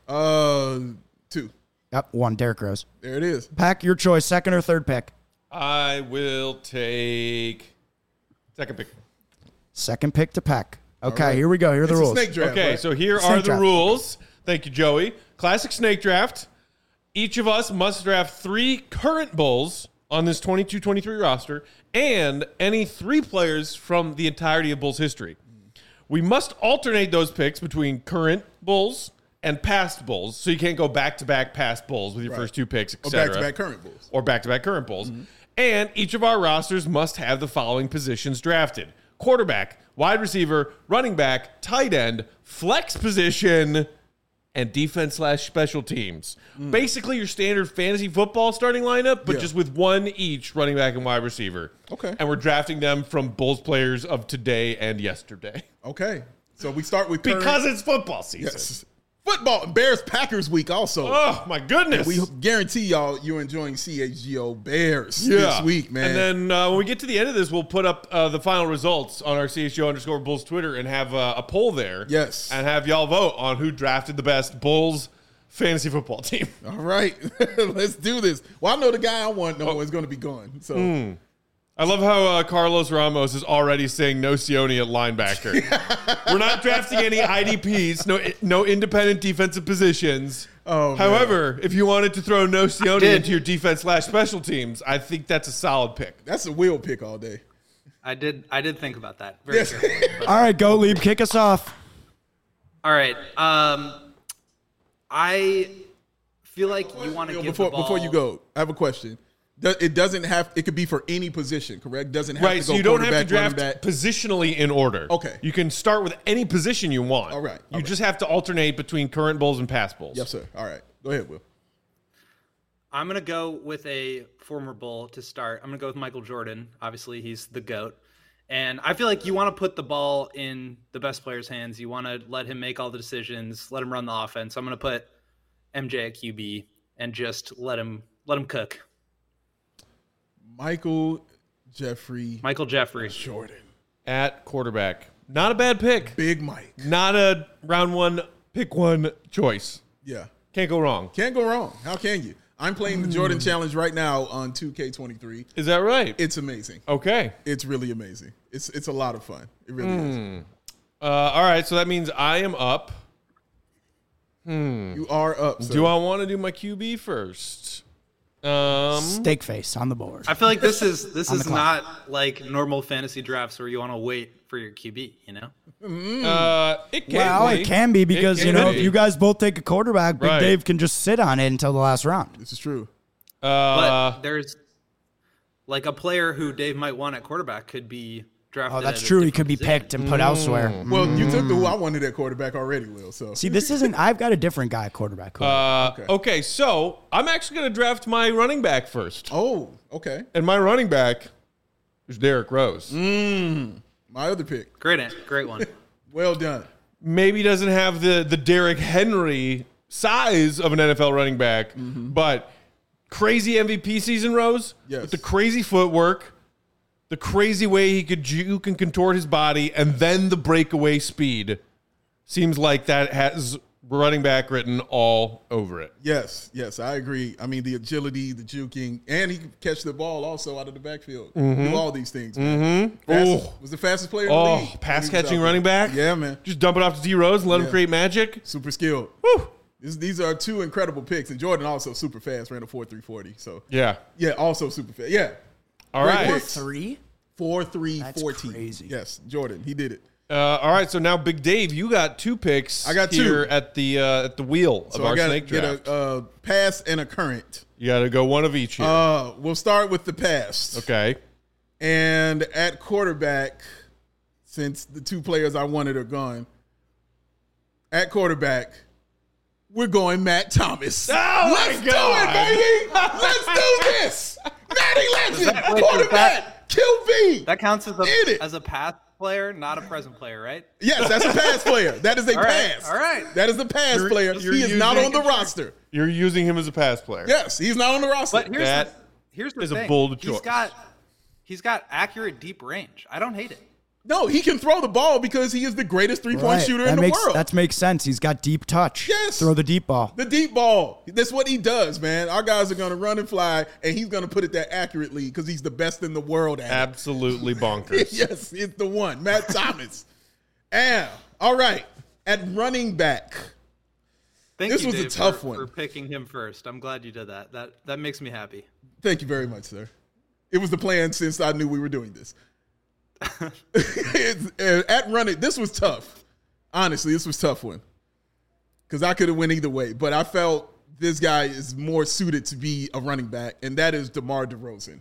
S2: 2.
S4: Yep, 1. Derek Rose.
S2: There it is.
S4: Pack your choice, second or third pick.
S1: I will take second pick.
S4: Second pick to Pack. Okay,
S2: right.
S4: here we go. Here are the
S2: It's
S4: rules.
S2: a snake draft.
S1: Okay,
S2: right?
S1: so here
S4: Snake
S1: are the
S4: draft.
S1: rules. Thank you, Joey. Classic snake draft. Each of us must draft 3 current Bulls on this 22-23 roster and any 3 players from the entirety of Bulls history. We must alternate those picks between current Bulls and past Bulls, so you can't go back-to-back past Bulls with your first 2 picks,
S2: or
S1: etc.
S2: back-to-back current Bulls.
S1: Or back-to-back current Bulls. And each of our rosters must have the following positions drafted: quarterback, wide receiver, running back, tight end, flex position, and defense/special teams. Basically your standard fantasy football starting lineup, but
S2: Yeah.
S1: just with 1 each running back and wide receiver.
S2: Okay.
S1: And we're drafting them from Bulls players of today and yesterday.
S2: Okay, so we start with current.
S1: Because it's football season.
S2: Yes. Football, Bears-Packers week also.
S1: Oh, my goodness.
S2: We guarantee y'all you're enjoying CHGO Bears this week, man.
S1: And then when we get to the end of this, we'll put up the final results on our CHGO_Bulls Twitter and have a poll there.
S2: Yes.
S1: And have y'all vote on who drafted the best Bulls fantasy football team.
S2: All right, let's do this. Well, I know the guy I want is going to be gone. So
S1: I love how Carlos Ramos is already saying no Sione at linebacker. We're not drafting any IDPs, no independent defensive positions.
S2: Oh, man.
S1: However, if you wanted to throw no Sione into your defense/special teams, I think that's a solid pick.
S2: that's a wheel pick all day.
S3: I did think about that very
S2: Yes.
S3: carefully. But,
S4: All right, go, Lieb. Kick us off.
S3: all right. I feel like you want to give the ball.
S2: Before you go, I have a question. It doesn't have. It could be for any position, correct? Doesn't have
S1: Right,
S2: to
S1: so
S2: go
S1: you don't have to
S2: quarterback,
S1: draft
S2: running back.
S1: positionally in order.
S2: Okay.
S1: You can start with any position you want.
S2: All right, all
S1: You
S2: right.
S1: just have to alternate between current Bulls and past Bulls.
S2: Yes, sir. All right, go ahead, Will.
S3: I'm going to go with a former Bull to start. I'm going to go with Michael Jordan. Obviously, he's the GOAT. And I feel like you want to put the ball in the best player's hands. You want to let him make all the decisions, let him run the offense. I'm going to put MJ at QB and just let him cook.
S2: Michael Jeffrey
S3: Jordan.
S1: At quarterback. Not a bad pick.
S2: Big Mike.
S1: Not a round 1, pick 1 choice.
S2: Yeah,
S1: Can't go wrong.
S2: can't go wrong. How can you? I'm playing the Jordan Challenge right now on 2K23.
S1: Is that right?
S2: It's amazing.
S1: Okay.
S2: It's really amazing. It's a lot of fun. It really is.
S1: All right, so that means I am up.
S2: You are up. Sir.
S1: Do I want to do my QB first?
S4: Steak face on the board.
S3: I feel like this is
S4: clock.
S3: not like normal fantasy drafts where you want to wait for your QB, you know?
S1: It can
S4: Well,
S1: be.
S4: it can be because,
S1: It
S4: you know,
S1: can
S4: if
S1: be.
S4: you guys both take a quarterback, Big
S1: Right.
S4: Dave can just sit on it until the last round.
S2: This is true.
S3: But there's like a player who Dave might want at quarterback could be drafted.
S4: Oh, that's
S3: at a
S4: true. He
S3: different
S4: could be
S3: position.
S4: picked and put elsewhere.
S2: Well, you took the who I wanted at quarterback already, Will. So
S4: See, this isn't. I've got a different guy at quarterback.
S1: okay, so I'm actually going to draft my running back first.
S2: oh, okay.
S1: And my running back is Derrick Rose.
S2: My other pick.
S3: Great one.
S2: Well done.
S1: Maybe doesn't have the Derrick Henry size of an NFL running back, but crazy MVP season, Rose.
S2: Yes.
S1: With the crazy footwork, the crazy way he could juke and contort his body, and then the breakaway speed. Seems like that has running back written all over it.
S2: Yes, I agree. I mean, the agility, the juking, and he could catch the ball also out of the backfield. Do all these things. Man. Was the fastest player in the league. when
S1: pass
S2: he was
S1: catching
S2: out there.
S1: running back?
S2: Yeah, man.
S1: Just dump it off to D Rose and let him
S2: Yeah.
S1: create magic?
S2: Super skilled.
S1: Woo!
S2: These are 2 incredible picks. And Jordan also super fast, ran a 4.340. So,
S1: Yeah.
S2: yeah, also super fast. Yeah.
S1: All
S2: Great
S1: right.
S2: picks.
S4: 3?
S2: 4.340.
S4: crazy.
S2: Yes, Jordan. He did it.
S1: All right, so now Big Dave, you got 2 picks.
S2: I got
S1: here
S2: 2.
S1: at the wheel of
S2: So
S1: our
S2: I got to
S1: snake
S2: get
S1: draft.
S2: a pass and a current.
S1: You got to go one of each here.
S2: We'll start with the pass.
S1: okay.
S2: And at quarterback, since the two players I wanted are gone. At quarterback, we're going Matt Thomas.
S1: Oh
S2: Let's
S1: my
S2: do
S1: God.
S2: it, baby. Let's do this. Matty Legend, quarterback, QB.
S3: That counts
S2: In it.
S3: as a past player, not a present player, right?
S2: Yes, that's a pass player. That is a
S3: All right,
S2: pass.
S3: all right.
S2: That is a pass player.
S1: you're
S2: He is not
S1: using-
S2: on the roster.
S1: You're using him as a pass player.
S2: Yes, he's not on the roster.
S3: But here's the
S1: is a
S3: thing.
S1: bold choice.
S3: He's got accurate deep range. I don't hate it.
S2: No, he can throw the ball because he is the greatest three-point
S4: Right.
S2: shooter
S4: That
S2: in the
S4: makes,
S2: world.
S4: That makes sense. He's got deep touch.
S2: Yes.
S4: Throw the deep ball.
S2: The deep ball. That's what he does, man. Our guys are going to run and fly, and he's going to put it that accurately because he's the best in the world at it.
S1: Absolutely bonkers.
S2: Yes, it's the one. Matt Thomas. And, all right, at running back.
S3: Thank
S2: This
S3: you,
S2: was a
S3: Dave,
S2: tough
S3: for,
S2: one.
S3: for picking him first. I'm glad you did that. That makes me happy.
S2: Thank you very much, sir. It was the plan since I knew we were doing this. At running, this was tough. Honestly, this was a tough one. Because I could have went either way. But I felt this guy is more suited to be a running back, and that is DeMar DeRozan.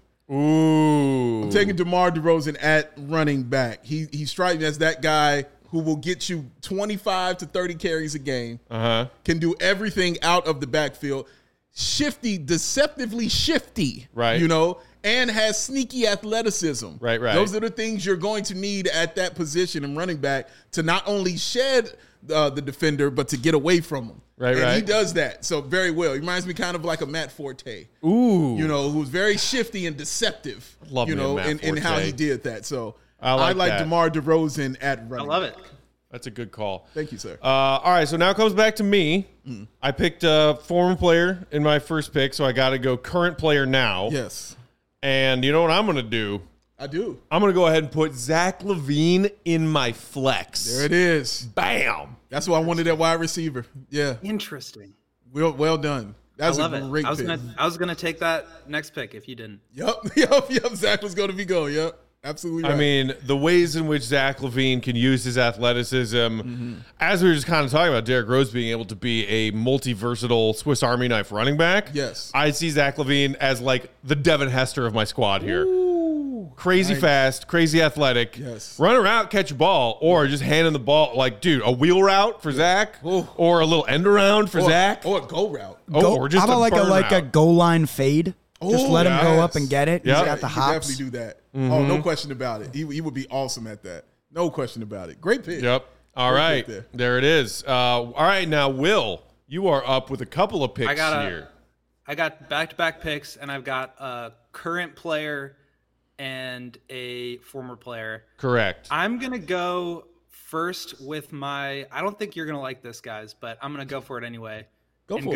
S1: Ooh.
S2: I'm taking DeMar DeRozan at running back. He strikes me as that guy who will get you 25 to 30 carries a game, can do everything out of the backfield, shifty, deceptively shifty,
S1: Right.
S2: you know, and has sneaky athleticism.
S1: Right.
S2: Those are the things you're going to need at that position in running back to not only shed the defender, but to get away from him.
S1: Right.
S2: He does that so very well. He reminds me kind of like a Matt Forte.
S1: Ooh.
S2: You know, who's very shifty and deceptive.
S1: Love
S2: you
S1: me a
S2: know,
S1: Matt
S2: in how
S1: Forte.
S2: he did that. So
S1: I like that.
S2: DeMar DeRozan at running.
S3: I love it.
S1: That's a good call.
S2: Thank you, sir.
S1: All right, so now it comes back to me. I picked a former player in my first pick, so I got to go current player now.
S2: Yes,
S1: And you know what I'm going to do?
S2: I do.
S1: I'm going to go ahead and put Zach LaVine in my flex.
S2: There it is.
S1: Bam.
S2: That's why I wanted that wide receiver. Yeah,
S3: Interesting.
S2: well done. That's
S3: I love
S2: a
S3: it.
S2: great
S3: I was
S2: pick.
S3: gonna take that next pick if you didn't.
S2: Yep. Zach was going to be going. Yep, absolutely. Right.
S1: I mean, the ways in which Zach LaVine can use his athleticism, as we were just kind of talking about Derrick Rose being able to be a multi-versatile Swiss Army knife running back.
S2: Yes.
S1: I see Zach LaVine as like the Devin Hester of my squad here. Crazy fast, crazy athletic.
S2: Yes.
S1: Run around, catch a ball, or just handing the ball. Like, dude, a wheel route for Zach, or a little end around for Zach.
S2: or a go route.
S1: Or just
S4: How about
S1: a
S4: like a
S1: burnout.
S4: goal line fade? Just let him go up and get it.
S1: Yep.
S4: He's got the
S2: He could
S4: hops.
S2: definitely do that. Oh, no question about it. He would be awesome at that. No question about it. Great pick.
S1: Yep. All
S2: Great
S1: right.
S2: pick
S1: There it is. All right. Now, Will, you are up with a couple of picks here.
S3: I got back-to-back picks, and I've got a current player and a former player.
S1: Correct.
S3: I'm gonna go first with my. I don't think you're gonna like this, guys, but I'm gonna go for it anyway.
S2: Go for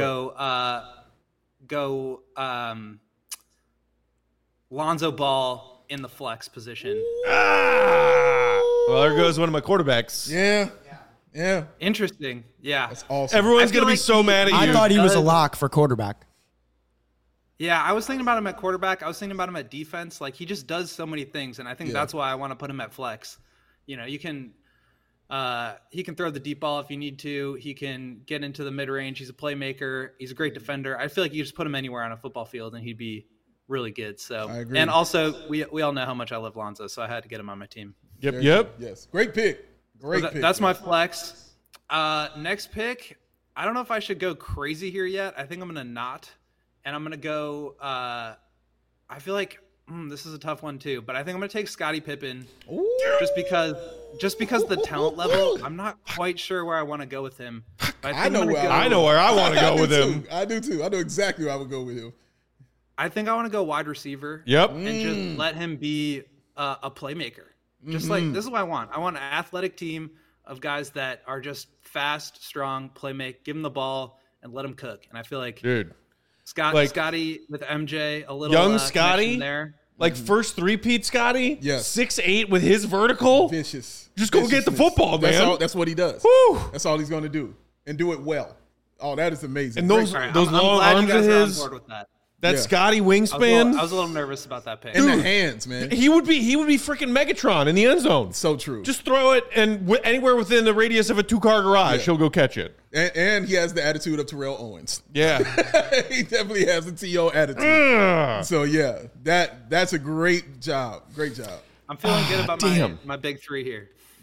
S3: it. Lonzo Ball in the flex position.
S1: Well, there goes one of my quarterbacks.
S2: Yeah.
S3: Interesting. Yeah.
S2: That's awesome.
S1: Everyone's
S3: I feel
S1: going to be
S3: like
S1: so mad at you.
S4: I thought he was a
S3: does-
S4: lock for quarterback.
S3: Yeah, I was thinking about him at quarterback. I was thinking about him at defense. Like, he just does so many things, and I think that's why I want to put him at flex. You know, you can he can throw the deep ball if you need to. He can get into the mid-range. He's a playmaker. He's a great defender. I feel like you just put him anywhere on a football field, and he'd be really good. So,
S2: I agree.
S3: and also, we all know how much I love Lonzo, so I had to get him on my team.
S1: Yep.
S2: Yes. Great pick. Great
S3: So
S2: pick.
S3: that's my flex. Next pick, I don't know if I should go crazy here yet. I think I'm going to not. And I'm going to go I feel like this is a tough one too, but I think I'm going to take Scottie Pippen just because the talent level, I'm not quite sure where I want to go with him. But
S2: I know where
S1: I know where I want to go
S2: do
S1: with
S2: too.
S1: him.
S2: I do too. I know exactly where I would go with him.
S3: I think I want to go wide receiver.
S1: Yep.
S3: And just let him be a playmaker. Just like, this is what I want. I want an athletic team of guys that are just fast, strong, playmake, give him the ball and let him cook. And I feel like
S1: Dude. Like-
S3: Scotty with MJ, a little
S1: Young
S3: connection
S1: Scotty?
S3: there.
S1: Like first three-peat Scotty?
S2: Yes.
S1: 6'8" with his vertical?
S2: Vicious.
S1: Just go get the
S2: Viciousness.
S1: football, man.
S2: That's what he does.
S1: Woo.
S2: That's all he's going to do. And do it well. Oh, that is amazing.
S1: And those
S3: All right,
S1: those
S3: I'm
S1: long
S3: glad
S1: arms
S3: you guys
S1: of
S3: are on
S1: his,
S3: board with that.
S1: that
S2: Yeah.
S1: Scotty
S3: I
S1: wingspan.
S3: was a little nervous about that pick.
S2: in the hands, man.
S1: He would be freaking Megatron in the end zone.
S2: So true.
S1: Just throw it, and anywhere within the radius of a 2-car garage,
S2: Yeah.
S1: he'll go catch it.
S2: and he has the attitude of Terrell Owens.
S1: Yeah.
S2: He definitely has the T.O. attitude.
S1: Ugh.
S2: So yeah, that's a great job. Great job.
S3: I'm feeling good about
S1: damn.
S3: my big three here.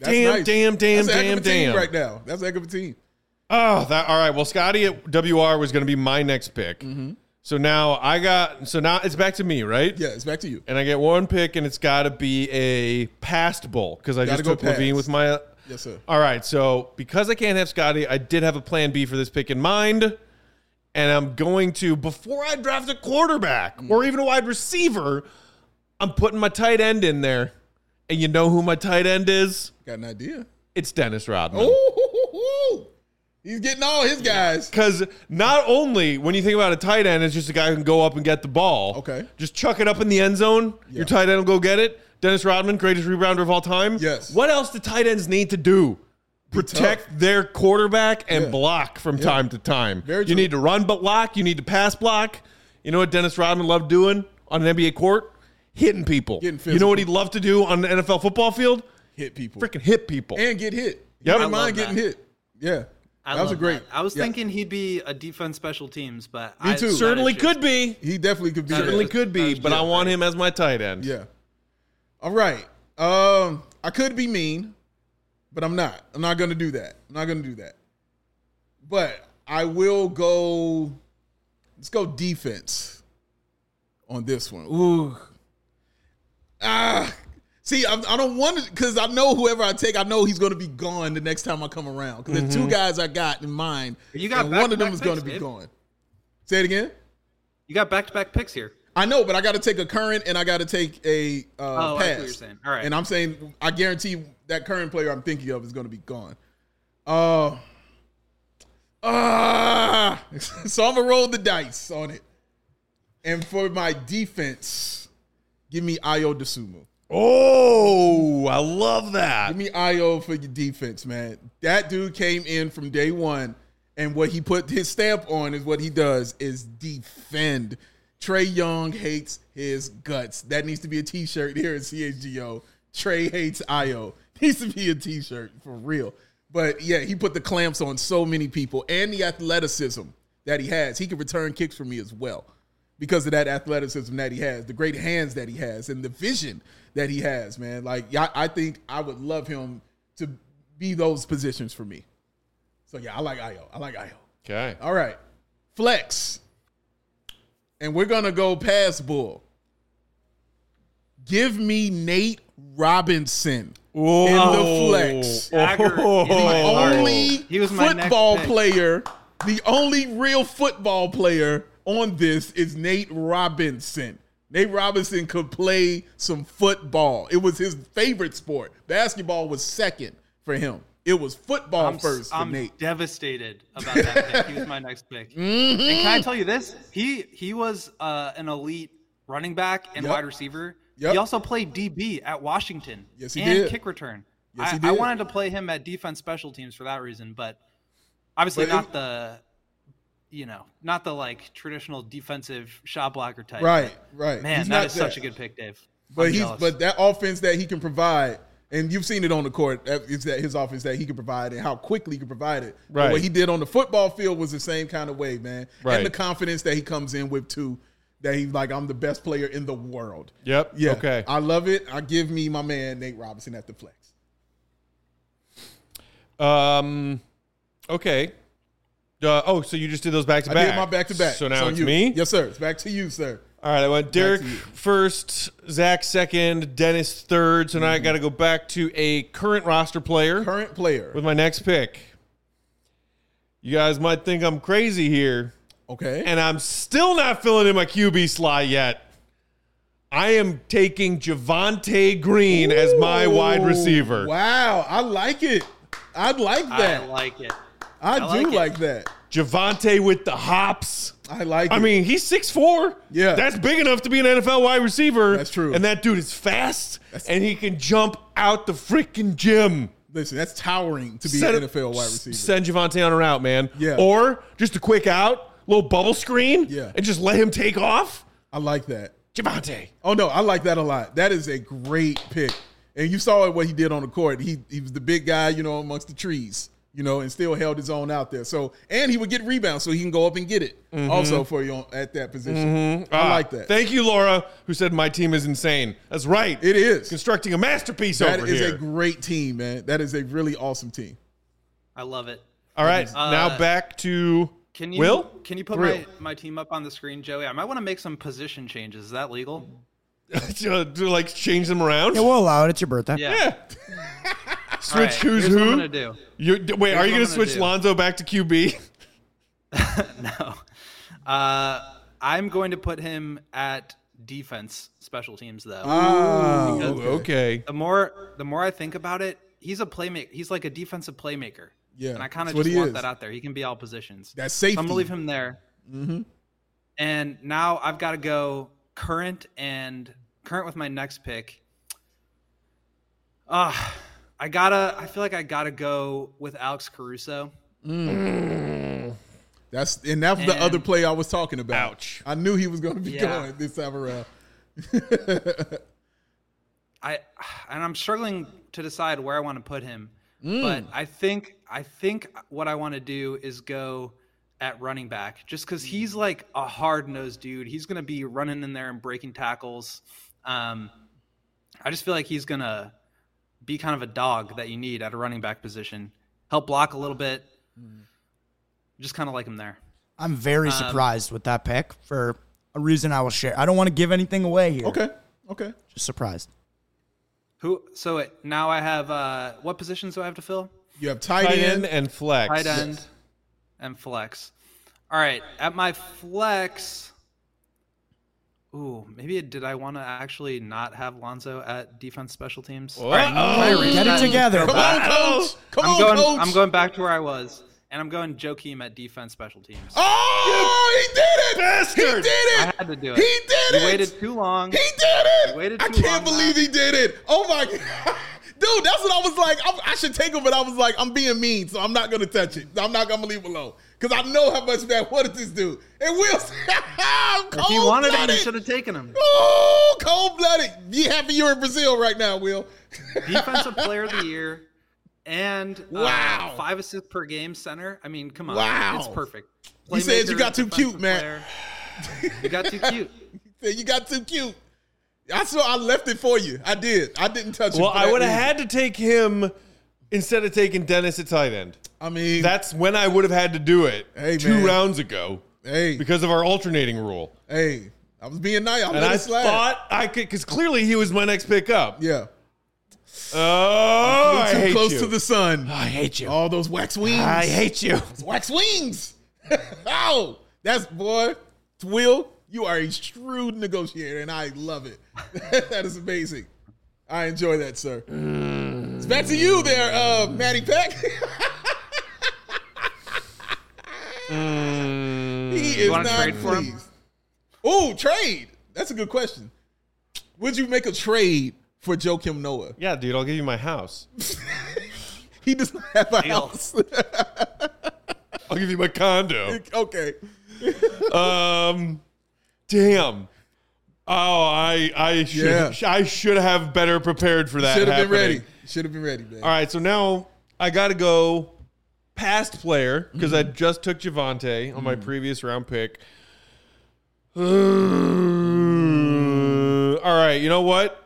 S2: That's
S1: damn
S2: That's a heck of a team right now. That's a heck of a team.
S1: Oh, all right. Well, Scotty at WR was going to be my next pick.
S2: Mm-hmm.
S1: So now now it's back to me, right?
S2: Yeah, it's back to you.
S1: And I get one pick, and it's got to be a past bull because I just took Levine with my.
S2: Yes, sir.
S1: All right. So because I can't have Scotty, I did have a plan B for this pick in mind. And I'm going to, before I draft a quarterback or even a wide receiver, I'm putting my tight end in there. And you know who my tight end is?
S2: Got an idea.
S1: It's Dennis Rodman.
S2: Oh, he's getting all his guys.
S1: Because not only when you think about a tight end, it's just a guy who can go up and get the ball.
S2: Okay.
S1: Just chuck it up in the end zone.
S2: Yeah.
S1: Your tight end will go get it. Dennis Rodman, greatest rebounder of all time.
S2: Yes.
S1: What else do tight ends need to do? Protect their quarterback and block from time to time.
S2: Very
S1: you
S2: true.
S1: need to run block. You need to pass block. You know what Dennis Rodman loved doing on an NBA court? Hitting people.
S2: Getting
S1: You know what he'd
S2: physical.
S1: love to do on the NFL football field?
S2: Hit people.
S1: Freaking hit people.
S2: And get hit.
S1: Yep.
S2: You
S1: I
S2: don't mind
S3: love
S2: getting
S3: that.
S2: hit. Yeah.
S3: I
S2: That was
S3: love
S2: a great.
S3: that. I was
S2: yeah.
S3: thinking he'd be a defense special teams, but
S2: Me too.
S1: Certainly could be.
S2: He definitely could be.
S1: Certainly
S2: that.
S1: could be, but I want him as my tight end.
S2: Yeah. All right. I could be mean, but I'm not. I'm not going to do that. But I will go. Let's go defense on this one. Ooh. See, I don't want to, because I know whoever I take, I know he's going to be gone the next time I come around. Because there's two guys I got in mind.
S3: You got
S2: and one of them
S3: back-to-back
S2: is going to
S3: picks,
S2: be
S3: Dave.
S2: gone. Say it again.
S3: You got back-to-back picks here.
S2: I know, but I got to take a current and I got to take a
S3: I see what
S2: pass.
S3: you're saying. All right.
S2: And I'm saying, I guarantee that current player I'm thinking of is going to be gone. So I'm going to roll the dice on it. And for my defense, give me Ayo Dosunmu.
S1: Oh, I love that.
S2: Give me Ayo for your defense, man. That dude came in from day one, and what he put his stamp on is what he does is defend. Trey Young hates his guts. That needs to be a T-shirt here at CHGO. Trey hates Ayo. Needs to be a T-shirt for real. But yeah, he put the clamps on so many people, and the athleticism that he has. He can return kicks for me as well because of that athleticism that he has, the great hands that he has, and the vision that he has, man. Like, I think I would love him to be those positions for me. So yeah, I like Ayo.
S1: Okay.
S2: All right. Flex. And we're going to go past Bull. Give me Nate Robinson in the flex.
S3: Dagger in my
S2: The
S3: heart.
S2: only
S3: He was my next
S2: football
S3: pick.
S2: player, the only real football player on this is Nate Robinson. Nate Robinson could play some football. It was his favorite sport. Basketball was second for him. It was football first for
S3: I'm
S2: Nate.
S3: devastated about that pick. He was my next pick. And can I tell you this? He was an elite running back and
S2: Yep.
S3: wide receiver.
S2: Yep.
S3: He also played DB at Washington.
S2: Yes, he
S3: and
S2: did.
S3: kick return.
S2: Yes, he
S3: I
S2: did.
S3: wanted to play him at defense special teams for that reason, but obviously
S2: But
S3: not the like traditional defensive shot blocker type.
S2: Right, right.
S3: Man,
S2: He's
S3: that
S2: not
S3: is such a good pick, Dave.
S2: But
S3: I'm jealous.
S2: but that offense that he can provide, and you've seen it on the court, is that his offense that he can provide and how quickly he can provide it. But
S1: Right.
S2: what he did on the football field was the same kind of way, man.
S1: Right.
S2: And the confidence that he comes in with too, that he's like, I'm the best player in the world.
S1: Yep.
S2: Yeah.
S1: Okay.
S2: I love it. I give me my man Nate Robinson at the flex.
S1: Okay. So you just did those back to
S2: I
S1: back.
S2: did my back to back.
S1: So now
S2: on
S1: it's
S2: you.
S1: me.
S2: Yes, sir. It's back to you, sir.
S1: All right. I went Derek
S2: to you.
S1: first, Zach second, Dennis third. So now I got to go back to a current roster player
S2: Current player.
S1: with my next pick. You guys might think I'm crazy here,
S2: Okay.
S1: and I'm still not filling in my QB slot yet. I am taking Javonte Green as my wide receiver.
S2: Wow. I like it. I like that.
S3: I like it.
S2: I do
S3: like it.
S2: like that.
S1: Javonte with the hops.
S2: I like it.
S1: I mean, he's 6'4".
S2: Yeah.
S1: That's big enough to be an NFL wide receiver.
S2: That's true.
S1: And that dude is fast, and he can jump out the freaking gym.
S2: Listen, that's towering to be an NFL wide receiver.
S1: Send Javonte on a route, man.
S2: Yeah.
S1: Or just a quick out, little bubble screen,
S2: Yeah.
S1: and just let him take off.
S2: I like that.
S1: Javonte.
S2: Oh, no, I like that a lot. That is a great pick. And you saw what he did on the court. He was the big guy, amongst the trees. and still held his own out there. So, and he would get rebounds, so he can go up and get it also for you at that position. I like that.
S1: Thank you, Laura, who said my team is insane. That's right.
S2: It is.
S1: Constructing a masterpiece
S2: That
S1: over
S2: is
S1: here.
S2: a great team, man. That is a really awesome team.
S3: I love it.
S1: All right, now back to Will.
S3: Can you put my team up on the screen, Joey? I might want to make some position changes. Is that legal?
S1: to like change them around?
S4: Yeah, we'll allow it. It's your birthday.
S1: Yeah. Switch
S3: All right,
S1: who's
S3: here's
S1: who?
S3: what I'm gonna do.
S1: Are
S3: Here's
S1: you
S3: what
S1: going
S3: I'm
S1: to
S3: gonna
S1: switch
S3: do.
S1: Lonzo back to QB?
S3: No. I'm going to put him at defense special teams though.
S2: Oh,
S3: Because
S1: Okay.
S3: The more I think about it, he's a playmaker. He's like a defensive playmaker.
S2: Yeah,
S3: And I kind of
S2: that's what
S3: just
S2: he
S3: want
S2: is.
S3: that out there. He can be all positions.
S2: That's safety.
S3: So I'm gonna leave him there. And now I've got to go current with my next pick. I feel like I gotta go with Alex Caruso.
S2: That was the other play I was talking about.
S1: Ouch.
S2: I knew he was going to be
S3: Yeah.
S2: going this time around.
S3: I'm struggling to decide where I want to put him. But I think what I want to do is go at running back, just because he's like a hard-nosed dude. He's going to be running in there and breaking tackles. I just feel like he's going to be kind of a dog that you need at a running back position. Help block a little bit. Just kind of like him there.
S4: I'm very surprised with that pick for a reason I will share. I don't want to give anything away here.
S2: Okay.
S4: Just surprised.
S3: Now I have what positions do I have to fill?
S2: You have tight
S1: Tight
S2: end.
S1: end and flex.
S3: Tight end and flex. All right, at my flex. Ooh, maybe did I want to actually not have Lonzo at defense special teams?
S1: Uh-oh.
S4: Get it together.
S2: Come on, coach. Come on, coach.
S3: I'm going back to where I was, and I'm going Joakim at defense special teams.
S2: Oh, he did it.
S1: Bastard.
S2: He did it.
S3: I had to do it.
S2: He did it.
S3: You waited too long.
S2: He did it.
S3: You waited
S2: I
S3: too
S2: can't
S3: long,
S2: believe
S3: Matt.
S2: he did it. Oh, my God. Dude, that's what I was like. I should take him, but I was like, I'm being mean, so I'm not going to touch it. I'm not going to leave him alone. Because I know how much Matt wanted this dude. And Will,
S3: If he wanted him, you should have taken him.
S2: Oh, cold-blooded. Be happy you're in Brazil right now, Will.
S3: Defensive player of the year and
S2: Wow.
S3: 5 assists per game center. I mean, come on.
S2: Wow.
S3: It's perfect.
S2: He said you
S3: Playmaker,
S2: got too cute,
S3: defensive
S2: Matt.
S3: player. You got too cute.
S2: He said you got too cute. I saw I left it for you. I did. I didn't touch it.
S1: Well,
S2: for
S1: I
S2: that
S1: would have
S2: reason.
S1: had to take him instead of taking Dennis at tight end.
S2: I mean,
S1: That's when I would have had to do it
S2: Hey,
S1: 2
S2: man.
S1: rounds ago
S2: hey,
S1: because of our alternating rule.
S2: hey, I was being nice. I
S1: And
S2: let
S1: I
S2: it slide.
S1: thought I could, because clearly he was my next pick up.
S2: Yeah.
S1: Oh, I
S2: Too
S1: hate
S2: close
S1: you.
S2: to the sun.
S1: I hate you.
S2: All those wax wings.
S1: I hate you.
S2: Wax wings. Oh, that's, boy, Will, you are a shrewd negotiator, and I love it. That is amazing. I enjoy that, sir. It's back to you there, Matty Peck. He is
S3: wanna
S2: not
S3: trade for him?
S2: pleased. Oh, trade. That's a good question. Would you make a trade for Joakim Noah?
S1: Yeah, dude, I'll give you my house.
S2: He does not have a
S3: Deal.
S2: house.
S1: I'll give you my condo.
S2: Okay.
S1: Damn. Oh, I should have better prepared for that.
S2: Should have been
S1: happening.
S2: ready. Should have been ready, man.
S1: All right, so now I got to go past player because I just took Javante on my previous round pick. All right, you know what?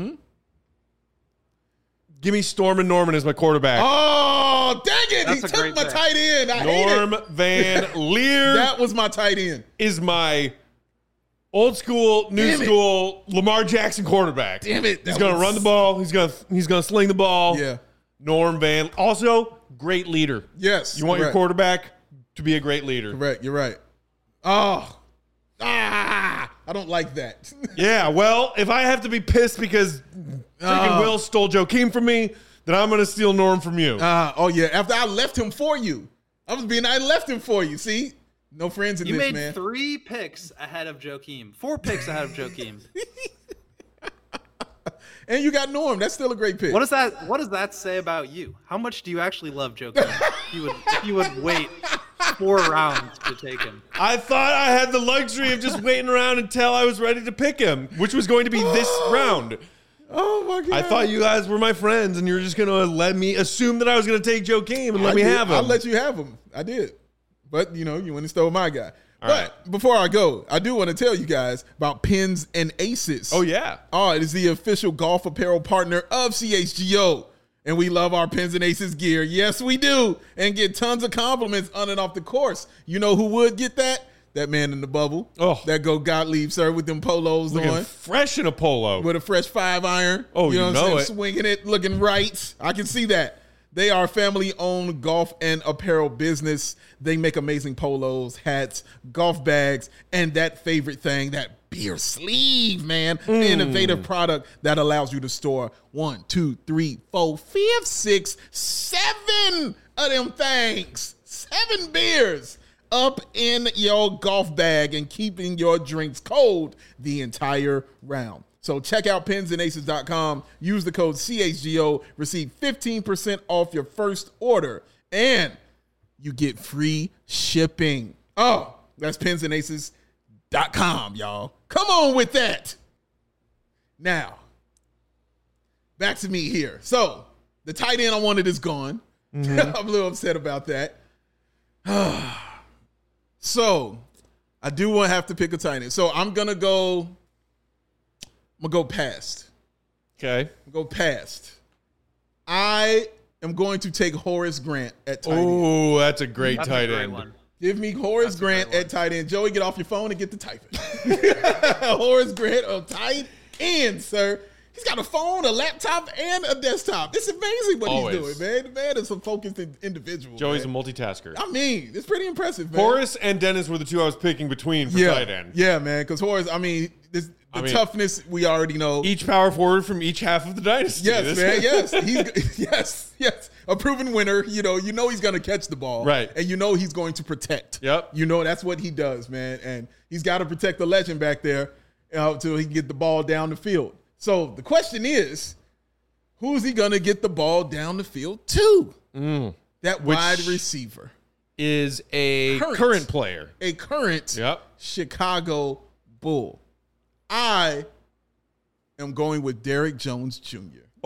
S1: Give me Storm and Norman as my quarterback.
S2: Oh, dang it.
S3: That's
S2: He
S3: a
S2: took
S3: great
S2: my
S3: pick.
S2: tight end. I hate
S1: Norm
S2: it.
S1: Van Leer
S2: That was my tight end.
S1: is my old school, new
S2: Damn it.
S1: school Lamar Jackson quarterback.
S2: Damn it.
S1: He's
S2: That
S1: going to
S2: was-
S1: run the ball. He's gonna sling the ball.
S2: Yeah.
S1: Norm Van. Also, great leader.
S2: Yes.
S1: You want your
S2: correct.
S1: quarterback to be a great leader.
S2: Correct. You're right. Oh. I don't like that.
S1: Yeah, well, if I have to be pissed because freaking Will stole Joakim from me, then I'm going to steal Norm from you.
S2: Oh, yeah. After I left him for you. I left him for you. See? No friends in
S3: You
S2: this,
S3: made
S2: man.
S3: 3 picks ahead of Joakim. 4 picks ahead of Joakim.
S2: And you got Norm. That's still a great pick.
S3: What does that say about you? How much do you actually love Joakim? if you would wait 4 rounds to take him.
S1: I thought I had the luxury of just waiting around until I was ready to pick him, which was going to be this round.
S2: Oh my god!
S1: I thought you guys were my friends, and you were just gonna let me assume that I was gonna take Joakim and let me have him.
S2: I let you have him. I did, but you went and stole my guy.
S1: All
S2: But before I go, I do want to tell you guys about Pins and Aces.
S1: Oh yeah.
S2: Oh, it is the official golf apparel partner of CHGO. And we love our Pins and Aces gear. Yes, we do. And get tons of compliments on and off the course. You know who would get that? That man in the bubble.
S1: Oh.
S2: That go Gottlieb, sir, with them polos
S1: Looking
S2: on.
S1: fresh in a polo.
S2: With a fresh 5-iron.
S1: Oh, you
S2: what I'm
S1: know
S2: saying?
S1: it.
S2: Swinging it, looking right. I can see that. They are a family-owned golf and apparel business. They make amazing polos, hats, golf bags, and that favorite thing, that beer sleeve, man. The innovative product that allows you to store 1, 2, 3, 4, 5, 6, 7 of them things. 7 beers up in your golf bag and keeping your drinks cold the entire round. So check out pinsandaces.com. Use the code CHGO. Receive 15% off your first order. And you get free shipping. Oh, that's pinsandaces.com, y'all. Come on with that. Now, back to me here. So, the tight end I wanted is gone. I'm a little upset about that. So, I do want to have to pick a tight end. So, I'm going to go past.
S1: Okay.
S2: Go past. I am going to take Horace Grant at tight end.
S1: Oh, that's a great
S3: That's
S1: tight
S3: a great
S1: end.
S3: one.
S2: Give me Horace Grant at tight end. Joey, get off your phone and get the typing. Horace Grant of tight end, sir. He's got a phone, a laptop, and a desktop. It's amazing what
S1: Always.
S2: he's doing, man. The man is a focused individual.
S1: Joey's
S2: man.
S1: a multitasker.
S2: I mean, it's pretty impressive, man.
S1: Horace and Dennis were the two I was picking between for tight end.
S2: Yeah, man. Because Horace, the toughness we already know.
S1: Each power forward from each half of the dynasty.
S2: Yes, man. Yes. He's a proven winner. You know he's going to catch the ball.
S1: Right.
S2: And you know he's going to protect.
S1: Yep.
S2: You know that's what he does, man. And he's got to protect the legend back there until he can get the ball down the field. So the question is, who's he going to get the ball down the field to? That wide receiver.
S1: Is a current player.
S2: A current
S1: Yep.
S2: Chicago Bull. I am going with Derrick Jones Jr.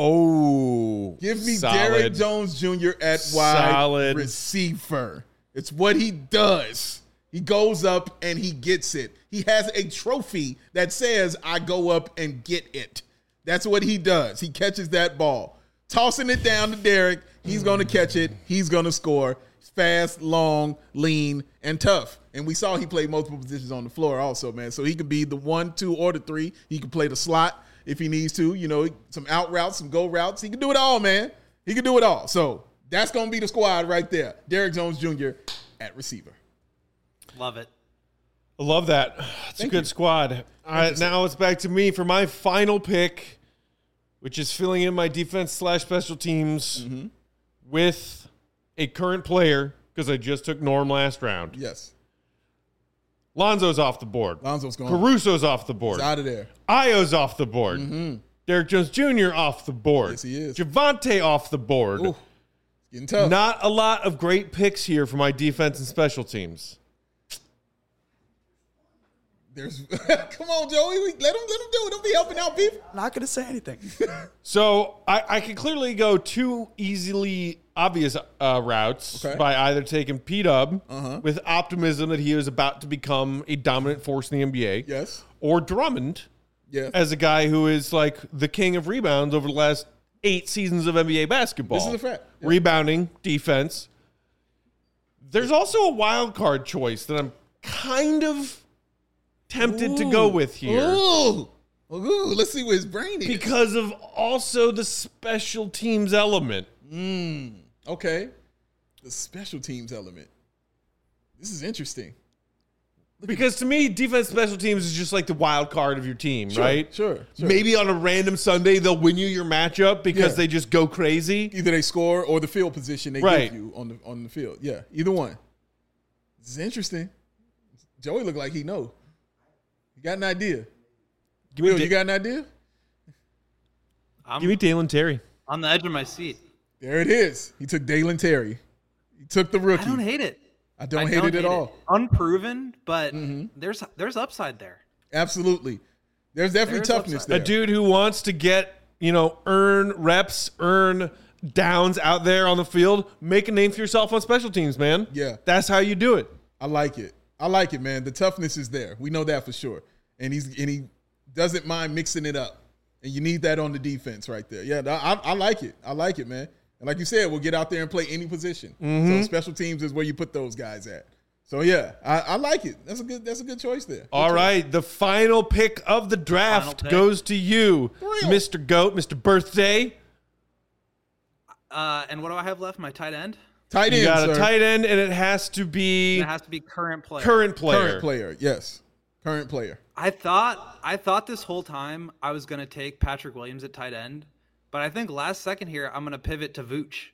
S1: Oh.
S2: Give me
S1: solid.
S2: Derrick Jones Jr. at wide receiver. It's what he does. He goes up and he gets it. He has a trophy that says, I go up and get it. That's what he does. He catches that ball. Tossing it down to Derrick. He's going to catch it. He's going to score. Fast, long, lean, and tough. And we saw he played multiple positions on the floor also, man. So he could be the 1, 2, or the 3. He could play the slot if he needs to. Some out routes, some go routes. He can do it all, man. He can do it all. So that's going to be the squad right there. Derrick Jones Jr. at receiver.
S3: Love it.
S1: I love that. It's a good squad. All right, now it's back to me for my final pick, which is filling in my defense/special teams with a current player because I just took Norm last round.
S2: Yes.
S1: Lonzo's off the board.
S2: Lonzo's gone.
S1: Caruso's off the board.
S2: He's out of there.
S1: Io's off the board. Derrick Jones Jr. off the board.
S2: Yes, he is.
S1: Javonte off the board.
S2: Ooh, getting tough.
S1: Not a lot of great picks here for my defense and special teams.
S2: Come on, Joey. Let him do it. Don't be helping out people.
S4: Not going to say anything.
S1: So I can clearly go two easily obvious routes by either taking P-Dub with optimism that he was about to become a dominant force in the NBA.
S2: Yes.
S1: Or Drummond as a guy who is like the king of rebounds over the last 8 seasons of NBA basketball.
S2: This is a fact. Yeah.
S1: Rebounding, defense. There's also a wild card choice that I'm kind of tempted to go with here.
S2: Ooh, let's see where his brain is.
S1: Because of also the special teams element.
S2: Okay. The special teams element. This is interesting.
S1: Because to me, defense special teams is just like the wild card of your team, right?
S2: Sure.
S1: Maybe on a random Sunday, they'll win you your matchup because they just go crazy.
S2: Either they score or the field position they give you on the field. Yeah, either one. This is interesting. Joey look like he know. You got an idea? Will, you got an idea?
S1: Give me Dalen Terry.
S3: On the edge of my seat.
S2: There it is. He took Dalen Terry. He took the rookie.
S3: I don't hate it.
S2: I don't hate it at all.
S3: Unproven, but there's upside there.
S2: Absolutely. There's definitely toughness there.
S1: A dude who wants to get, earn reps, earn downs out there on the field, make a name for yourself on special teams, man.
S2: Yeah.
S1: That's how you do it.
S2: I like it. Man. The toughness is there. We know that for sure. And he doesn't mind mixing it up. And you need that on the defense right there. Yeah, I like it. I like it, man. And like you said, we'll get out there and play any position. So special teams is where you put those guys at. So yeah, I like it. That's a good choice there.
S1: All right, the final pick of the draft goes to you, Mr. GOAT, Mr. Birthday.
S3: And what do I have left? My tight end?
S2: Tight end,
S1: You got
S2: sir.
S1: a tight end, and it has to be
S3: It has to be current player.
S1: current player.
S2: Current player, yes. Current player.
S3: I thought this whole time I was going to take Patrick Williams at tight end, but I think last second here I'm going to pivot to Vooch.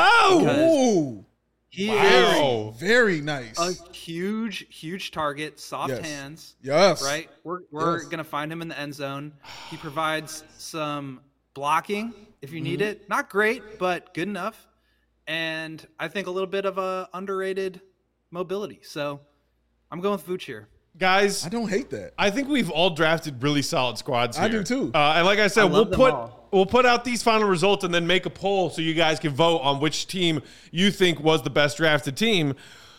S2: Oh,
S3: He
S1: Wow.
S2: very nice.
S3: is a huge target, soft
S2: Yes.
S3: hands.
S2: Yes.
S3: Right? We're going to find him in the end zone. He provides some blocking if you need it. Not great, but good enough. And I think a little bit of a underrated mobility. So I'm going with Vooch here.
S1: Guys,
S2: I don't hate that.
S1: I think we've all drafted really solid squads here.
S2: I do too.
S1: And like I said,
S3: I love them all.
S1: we'll put out these final results and then make a poll so you guys can vote on which team you think was the best drafted team.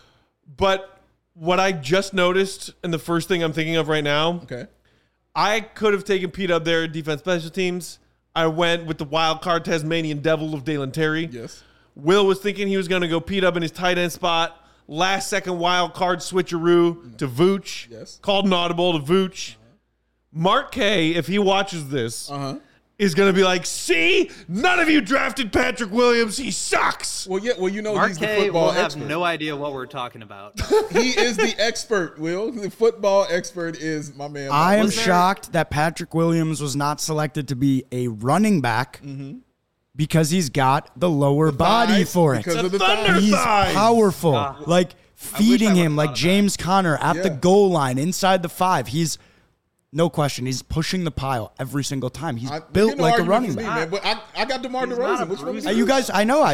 S1: But what I just noticed, and the first thing I'm thinking of right now,
S2: Okay.
S1: I could have taken Pete up there, defense special teams. I went with the wild card Tasmanian Devil of Dalen Terry.
S2: Yes.
S1: Will was thinking he was going to go Pete up in his tight end spot. Last second wild card switcheroo to Vooch.
S2: Yes.
S1: Called an audible to Vooch. Mark K, if he watches this, is going to be like, see, none of you drafted Patrick Williams. He sucks.
S2: Well, yeah. Well, you know
S3: Mark
S2: he's the
S3: K
S2: football
S3: will have
S2: expert.
S3: no idea what we're talking about.
S2: He is the expert. Will the football expert is my man.
S4: I am
S3: Was there-
S4: shocked that Patrick Williams was not selected to be a running back because he's got the lower body
S2: thighs,
S4: for it.
S2: because of
S1: The
S2: the
S1: thunder
S2: thighs.
S4: He's
S1: thighs.
S4: powerful. Like feeding
S3: I
S4: him
S3: would've
S4: like
S3: thought of
S4: James Conner at the
S2: Yeah.
S4: goal line inside the 5. He's no question. He's pushing the pile every single time. He's built like a running back.
S2: man, but I got DeMar
S3: He's not
S2: DeRozan.
S3: a
S2: Which one was
S3: bruiser.
S2: you?
S4: You guys, I know.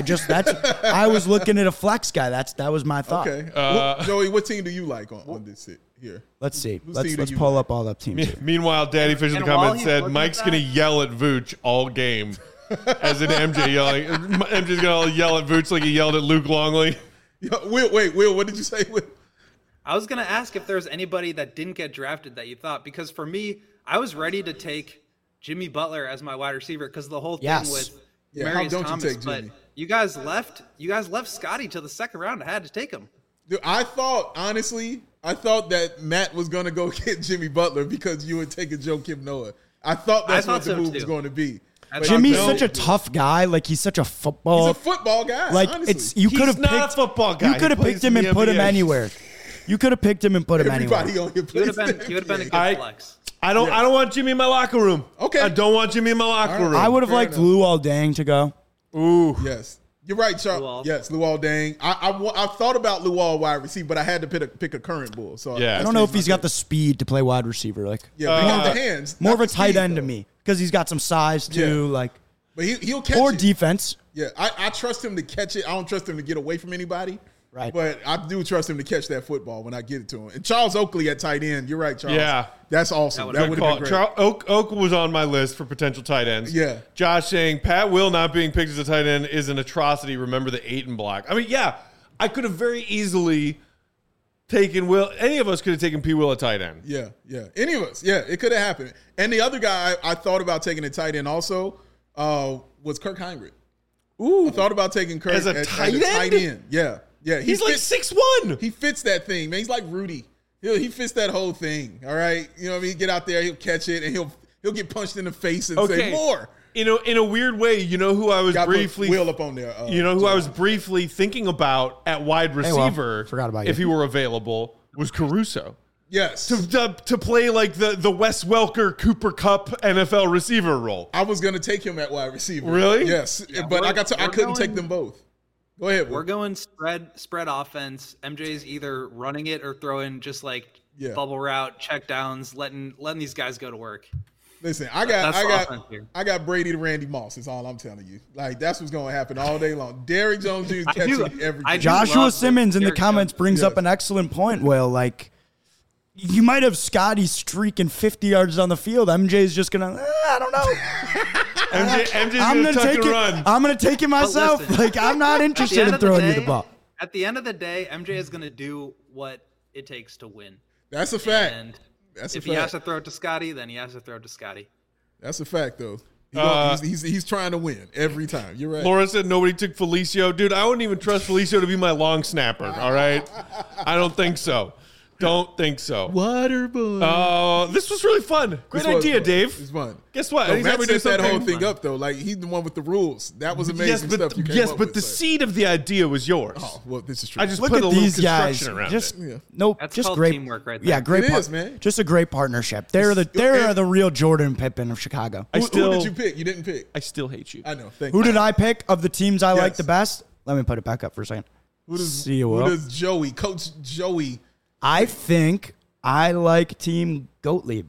S4: I was looking at a flex guy. That was my thought.
S2: Okay. Joey, what team do you like on this sit here?
S4: Let's see.
S2: Whose
S4: Let's
S2: team do you
S4: pull
S2: like?
S4: up all the teams. here.
S1: Meanwhile, Daddy Fish in the
S3: And while
S1: comments
S3: he's
S1: said
S3: looking
S1: Mike's
S3: at
S1: going to
S3: that-
S1: yell at Vooch all game. As in MJ yelling. MJ's going to yell at Vooch like he yelled at Luke Longley.
S2: Yeah, Will, what did you say? Will?
S3: I was going to ask if there was anybody that didn't get drafted that you thought, because for me, I was ready to take Jimmy Butler as my wide receiver because of the whole thing
S4: Yes.
S3: with
S2: Yeah, how
S3: Marius
S2: don't you
S3: Thomas.
S2: take
S3: But
S2: Jimmy?
S3: you guys left Scotty to the second round. I had to take him.
S2: Dude, I thought that Matt was going to go get Jimmy Butler because you would take a Joakim Noah. I thought that's
S3: I
S2: what
S3: thought
S2: the
S3: so,
S2: move was
S3: too.
S2: going to be.
S3: I
S2: But
S3: thought
S4: Jimmy's
S3: so.
S4: such a tough guy. Like he's such a football.
S2: He's a football guy.
S4: like
S2: honestly.
S4: it's you
S1: He's
S4: could have
S1: not
S4: picked
S1: a football guy.
S4: You could have
S1: He
S4: picked
S1: plays
S4: him
S1: in
S4: and
S1: the
S4: put him
S1: NBA.
S4: anywhere. You could have picked him and put him
S2: Everybody
S4: anywhere.
S2: on your
S3: He would
S2: place.
S3: have been a good
S1: I-
S3: flex.
S1: I don't want Jimmy in my locker room.
S2: Okay.
S1: I don't want Jimmy in my locker room.
S4: I would have
S2: Fair
S4: liked
S2: enough.
S4: Luol Deng to go.
S1: Ooh.
S2: Yes. You're right, Charles.
S3: Luol.
S2: Yes, Luol Deng. I thought about Luol wide receiver, but I had to pick a current Bull. So
S1: Yeah.
S4: I don't know if he's got the speed to play wide receiver. Like
S2: Yeah, but he got the hands.
S4: more of
S2: not
S4: a
S2: the
S4: tight
S2: speed,
S4: end to
S2: though.
S4: me because he's got some size too.
S2: Yeah.
S4: Like
S2: But he'll catch
S4: or
S2: it.
S4: defense.
S2: Yeah, I trust him to catch it. I don't trust him to get away from anybody.
S4: Right.
S2: But I do trust him to catch that football when I get it to him. And Charles Oakley at tight end. You're right, Charles.
S1: Yeah.
S2: That's awesome. That
S1: Good
S2: would
S1: call.
S2: have been great.
S1: Oak was on my list for potential tight ends.
S2: Yeah.
S1: Josh saying Pat Will not being picked as a tight end is an atrocity. Remember the 8 and block. I mean, yeah, I could have very easily taken Will. Any of us could have taken P. Will at tight end.
S2: Yeah. Any of us. Yeah, it could have happened. And the other guy I thought about taking a tight end also was Kirk Heinrich.
S1: Ooh.
S2: I thut about taking Kirk
S1: As a tight end?
S2: Yeah.
S1: He's like 6'1".
S2: He fits that thing, man. He's like Rudy. He fits that whole thing. All right. You know what I mean? Get out there, he'll catch it, and he'll get punched in the face and say more.
S1: In a weird way, you know who I was
S2: Got to put
S1: briefly
S2: Will up on there.
S1: you know who I was briefly thinking about at wide receiver.
S4: forgot about
S1: if
S4: you.
S1: he were available was Caruso.
S2: Yes.
S1: To play like the Wes Welker Cooper Cup NFL receiver role.
S2: I was going to take him at wide receiver.
S1: Really?
S2: Yes.
S3: Yeah,
S2: but I
S3: we're
S2: couldn't take
S3: going-
S2: them both. Go ahead.
S3: We're
S2: Will.
S3: going spread offense. MJ's either running it or throwing just like
S2: Yeah.
S3: bubble route, check downs, letting these guys go to work.
S2: Listen, I
S3: That's the
S2: got
S3: offense here.
S2: I got Brady to Randy Moss. Is all I'm telling you. Like that's what's going to happen all day long. Derrick Jones Jr. catching everything.
S3: I do
S4: Joshua
S3: love
S4: Simmons in the
S3: Derrick
S4: comments
S3: Jones.
S4: brings up
S2: Yes.
S4: an excellent point. Will like you might have Scotty streaking 50 yards down the field. MJ's just going to, I don't know.
S1: MJ's going to tuck and run.
S4: I'm going to take it myself.
S3: listen,
S4: like, I'm not interested in throwing you the ball.
S3: At the end of the day, MJ is going to do what it takes to win.
S2: That's a fact.
S3: And
S2: That's
S3: if
S2: a
S3: he has
S2: fact.
S3: to throw it to Scotty, then he has to throw it to Scotty.
S2: That's a fact, though. He's trying to win every time. You're right.
S1: Laura said nobody took Felicio. Dude, I wouldn't even trust Felicio to be my long snapper, all right? I don't think so. Don't think so.
S2: Water boy.
S1: This was really fun. Great idea, Dave.
S2: It's fun.
S1: Guess what?
S2: No,
S1: Anytime
S2: Matt
S1: we do
S2: set that whole
S1: something
S2: thing up, though. Like, he's the one with the rules. That was amazing stuff you came
S1: yes,
S2: up
S1: but
S2: with,
S1: the
S2: so.
S1: seed of the idea was yours.
S2: Oh, well, this is true.
S1: I just
S4: Look
S1: put
S4: at
S1: a little
S4: these guys.
S1: construction around
S4: Just
S1: it.
S4: nope.
S3: That's
S4: just
S3: called
S4: great
S3: teamwork right there.
S4: Yeah, great.
S2: It is, man.
S4: Just a great partnership. They're the real Jordan Pippen of Chicago.
S2: Who did you pick? You didn't pick.
S1: I still hate you.
S2: I know. Thank
S4: Who
S2: you.
S4: did I pick of the teams I like
S2: Yes.
S4: the best? Let me put it back up for a second.
S2: Who does Joey, Coach Joey?
S4: I think I like Team Gottlieb.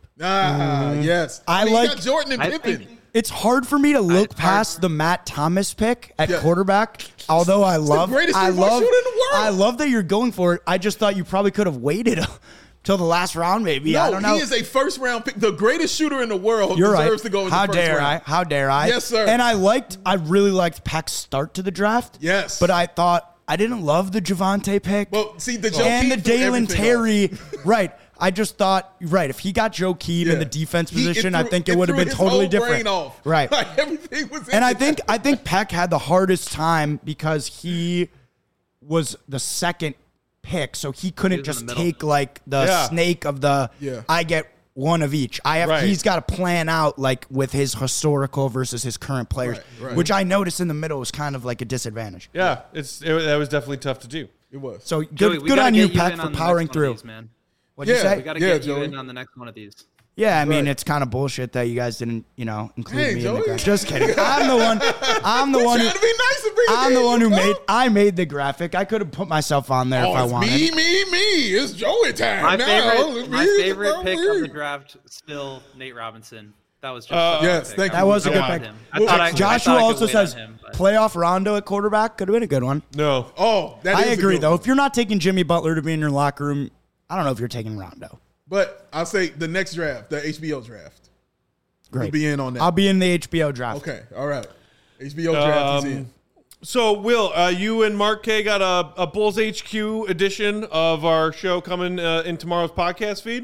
S2: Yes.
S4: I
S2: mean, you
S4: like-
S2: got Jordan and
S3: I
S2: Pippen.
S3: think-
S4: It's hard for me to look
S3: it's hard.
S4: past the Matt Thomas pick at
S2: Yeah.
S4: quarterback. Although I love,
S2: greatest
S4: I
S2: three-point
S4: love,
S2: shooter in the world.
S4: I love that you're going for it. I just thought you probably could have waited till the last round, maybe. I don't know.
S2: He is a first round pick. The greatest shooter in the world
S4: You're
S2: deserves
S4: right.
S2: to go in
S4: How
S2: the first
S4: dare
S2: round.
S4: I? How dare I?
S2: Yes, sir.
S4: And I really liked Peck's start to the draft.
S2: Yes.
S4: But I thought I didn't love the Javante pick.
S2: Well, see, the Joe
S4: and the
S2: Keefe threw
S4: Dalen
S2: everything
S4: Terry. Right. I just thought, right, if he got Joe Keefe in the defense position, I think it would have been totally different. Right.
S2: Like, everything was in
S4: And I
S2: it.
S4: think Peck had the hardest time because he was the second pick, so he couldn't
S3: He was in
S4: just
S3: the middle.
S4: take like the snake of the
S2: Yeah.
S4: I get one of each.
S1: Right.
S4: He's got to plan out like with his historical versus his current players,
S2: Right.
S4: which I noticed in the middle was kind of like a disadvantage.
S1: Yeah, that was definitely tough to do.
S2: It was.
S4: So
S3: Joey,
S4: good
S3: we gotta
S4: on you,
S3: get
S4: Peck,
S3: in
S4: for
S3: on the
S4: powering
S3: next one of
S4: through.
S3: these, man.
S4: What'd you say?
S3: We got to
S2: Yeah,
S3: get you
S2: Joey.
S3: in on the next one of these.
S4: Yeah, I mean
S2: Right.
S4: it's kind of bullshit that you guys didn't, include
S2: Hey,
S4: me in
S2: Joey.
S4: the graphic. Just kidding. I'm the one. I'm the one.
S2: Trying to be nice and bring it
S4: I'm the
S2: in,
S4: one who
S2: bro.
S4: I made the graphic. I could have put myself on there if I
S2: it's
S4: wanted.
S2: me. It's Joey time.
S3: My
S2: now.
S3: favorite pick of the draft still Nate Robinson. That was just
S2: yes,
S3: pick.
S2: thank
S3: I
S2: you.
S4: That was a
S3: really
S4: good
S3: wanted
S4: pick.
S3: him. I thought I
S4: Joshua
S3: could
S4: also
S3: wait on
S4: says
S3: him, but-
S4: playoff Rondo at quarterback could have been a good one.
S1: No.
S2: Oh, that
S4: I
S2: is a
S4: agree
S2: good
S4: though.
S2: one.
S4: If you're not taking Jimmy Butler to be in your locker room, I don't know if you're taking Rondo.
S2: But I'll say the next draft, the HBO draft.
S4: Great.
S2: We'll be in on that.
S4: I'll be in the HBO draft.
S2: Okay, all right. HBO draft is in.
S1: So, Will, you and Mark K got a Bulls HQ edition of our show coming in tomorrow's podcast feed.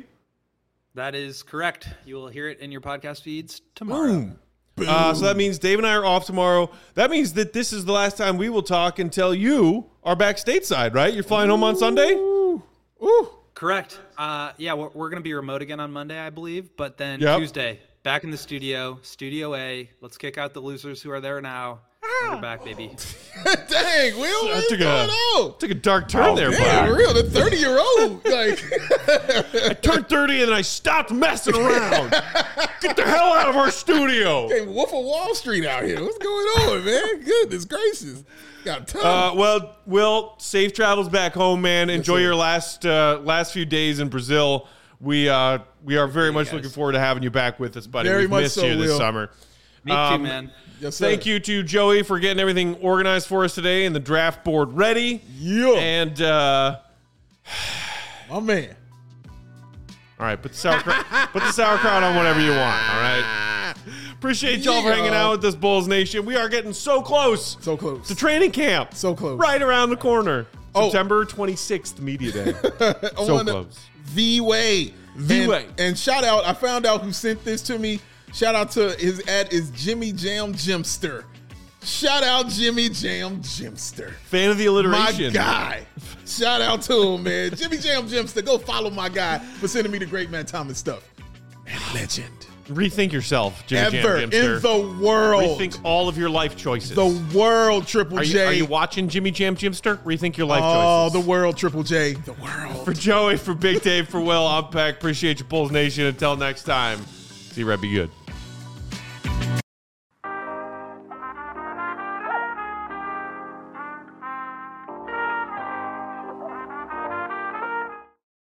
S3: That is correct. You will hear it in your podcast feeds tomorrow.
S1: So that means Dave and I are off tomorrow. That means that this is the last time we will talk until you are back stateside, right? You're flying home on Sunday?
S2: Ooh.
S3: Correct. Yeah, we're going to be remote again on Monday, I believe. But then
S1: Yep.
S3: Tuesday, back in the studio, Studio A. Let's kick out the losers who are there now. We're back, baby.
S2: Dang, Will, what's
S1: took
S2: going on?
S1: a dark turn there,
S2: Yeah,
S1: bud.
S2: real. The 30-year-old. Like,
S1: I turned 30 and then I stopped messing around. Get the hell out of our studio.
S2: hey, Wolf of Wall Street out here. What's going on, man? Goodness gracious. Got time.
S1: Well, Will, safe travels back home, man. Enjoy your last few days in Brazil. We are very much looking forward to having you back with us, buddy.
S2: Very
S1: We've
S2: much
S1: missed
S2: so,
S1: you this
S2: Will.
S1: summer.
S3: Me too, man.
S2: Yes, sir.
S1: Thank you to Joey for getting everything organized for us today and the draft board ready.
S2: Yeah.
S1: And
S2: My man.
S1: all right, put the sauerkraut on whatever you want. All right. Appreciate y'all for hanging out with us, Bulls Nation. We are getting so close.
S2: So close.
S1: to training camp.
S2: So close.
S1: Right around the corner.
S2: Oh.
S1: September 26th, Media Day. So close.
S2: The Way.
S1: The Way.
S2: And shout out, I found out who sent this to me. Shout out to his ad is Jimmy Jam Jimster. Shout out Jimmy Jam Jimster.
S1: Fan of the
S2: My
S1: alliteration.
S2: guy. Shout out to him, man. Jimmy Jam Jimster. Go follow my guy for sending me the Great Man Thomas stuff. Man, legend.
S1: Rethink yourself, Jimmy
S2: Ever
S1: Jam
S2: in
S1: Jimster.
S2: the world.
S1: Rethink all of your life choices.
S2: The world, Triple
S1: are
S2: J.
S1: you watching Jimmy Jam Jimster? Rethink your life
S2: Oh,
S1: choices.
S2: the world, Triple J. The world.
S1: For Joey, for Big Dave, for Will, I'm Peck. Appreciate you, Bulls Nation. Until next time, see you, Red. Be good.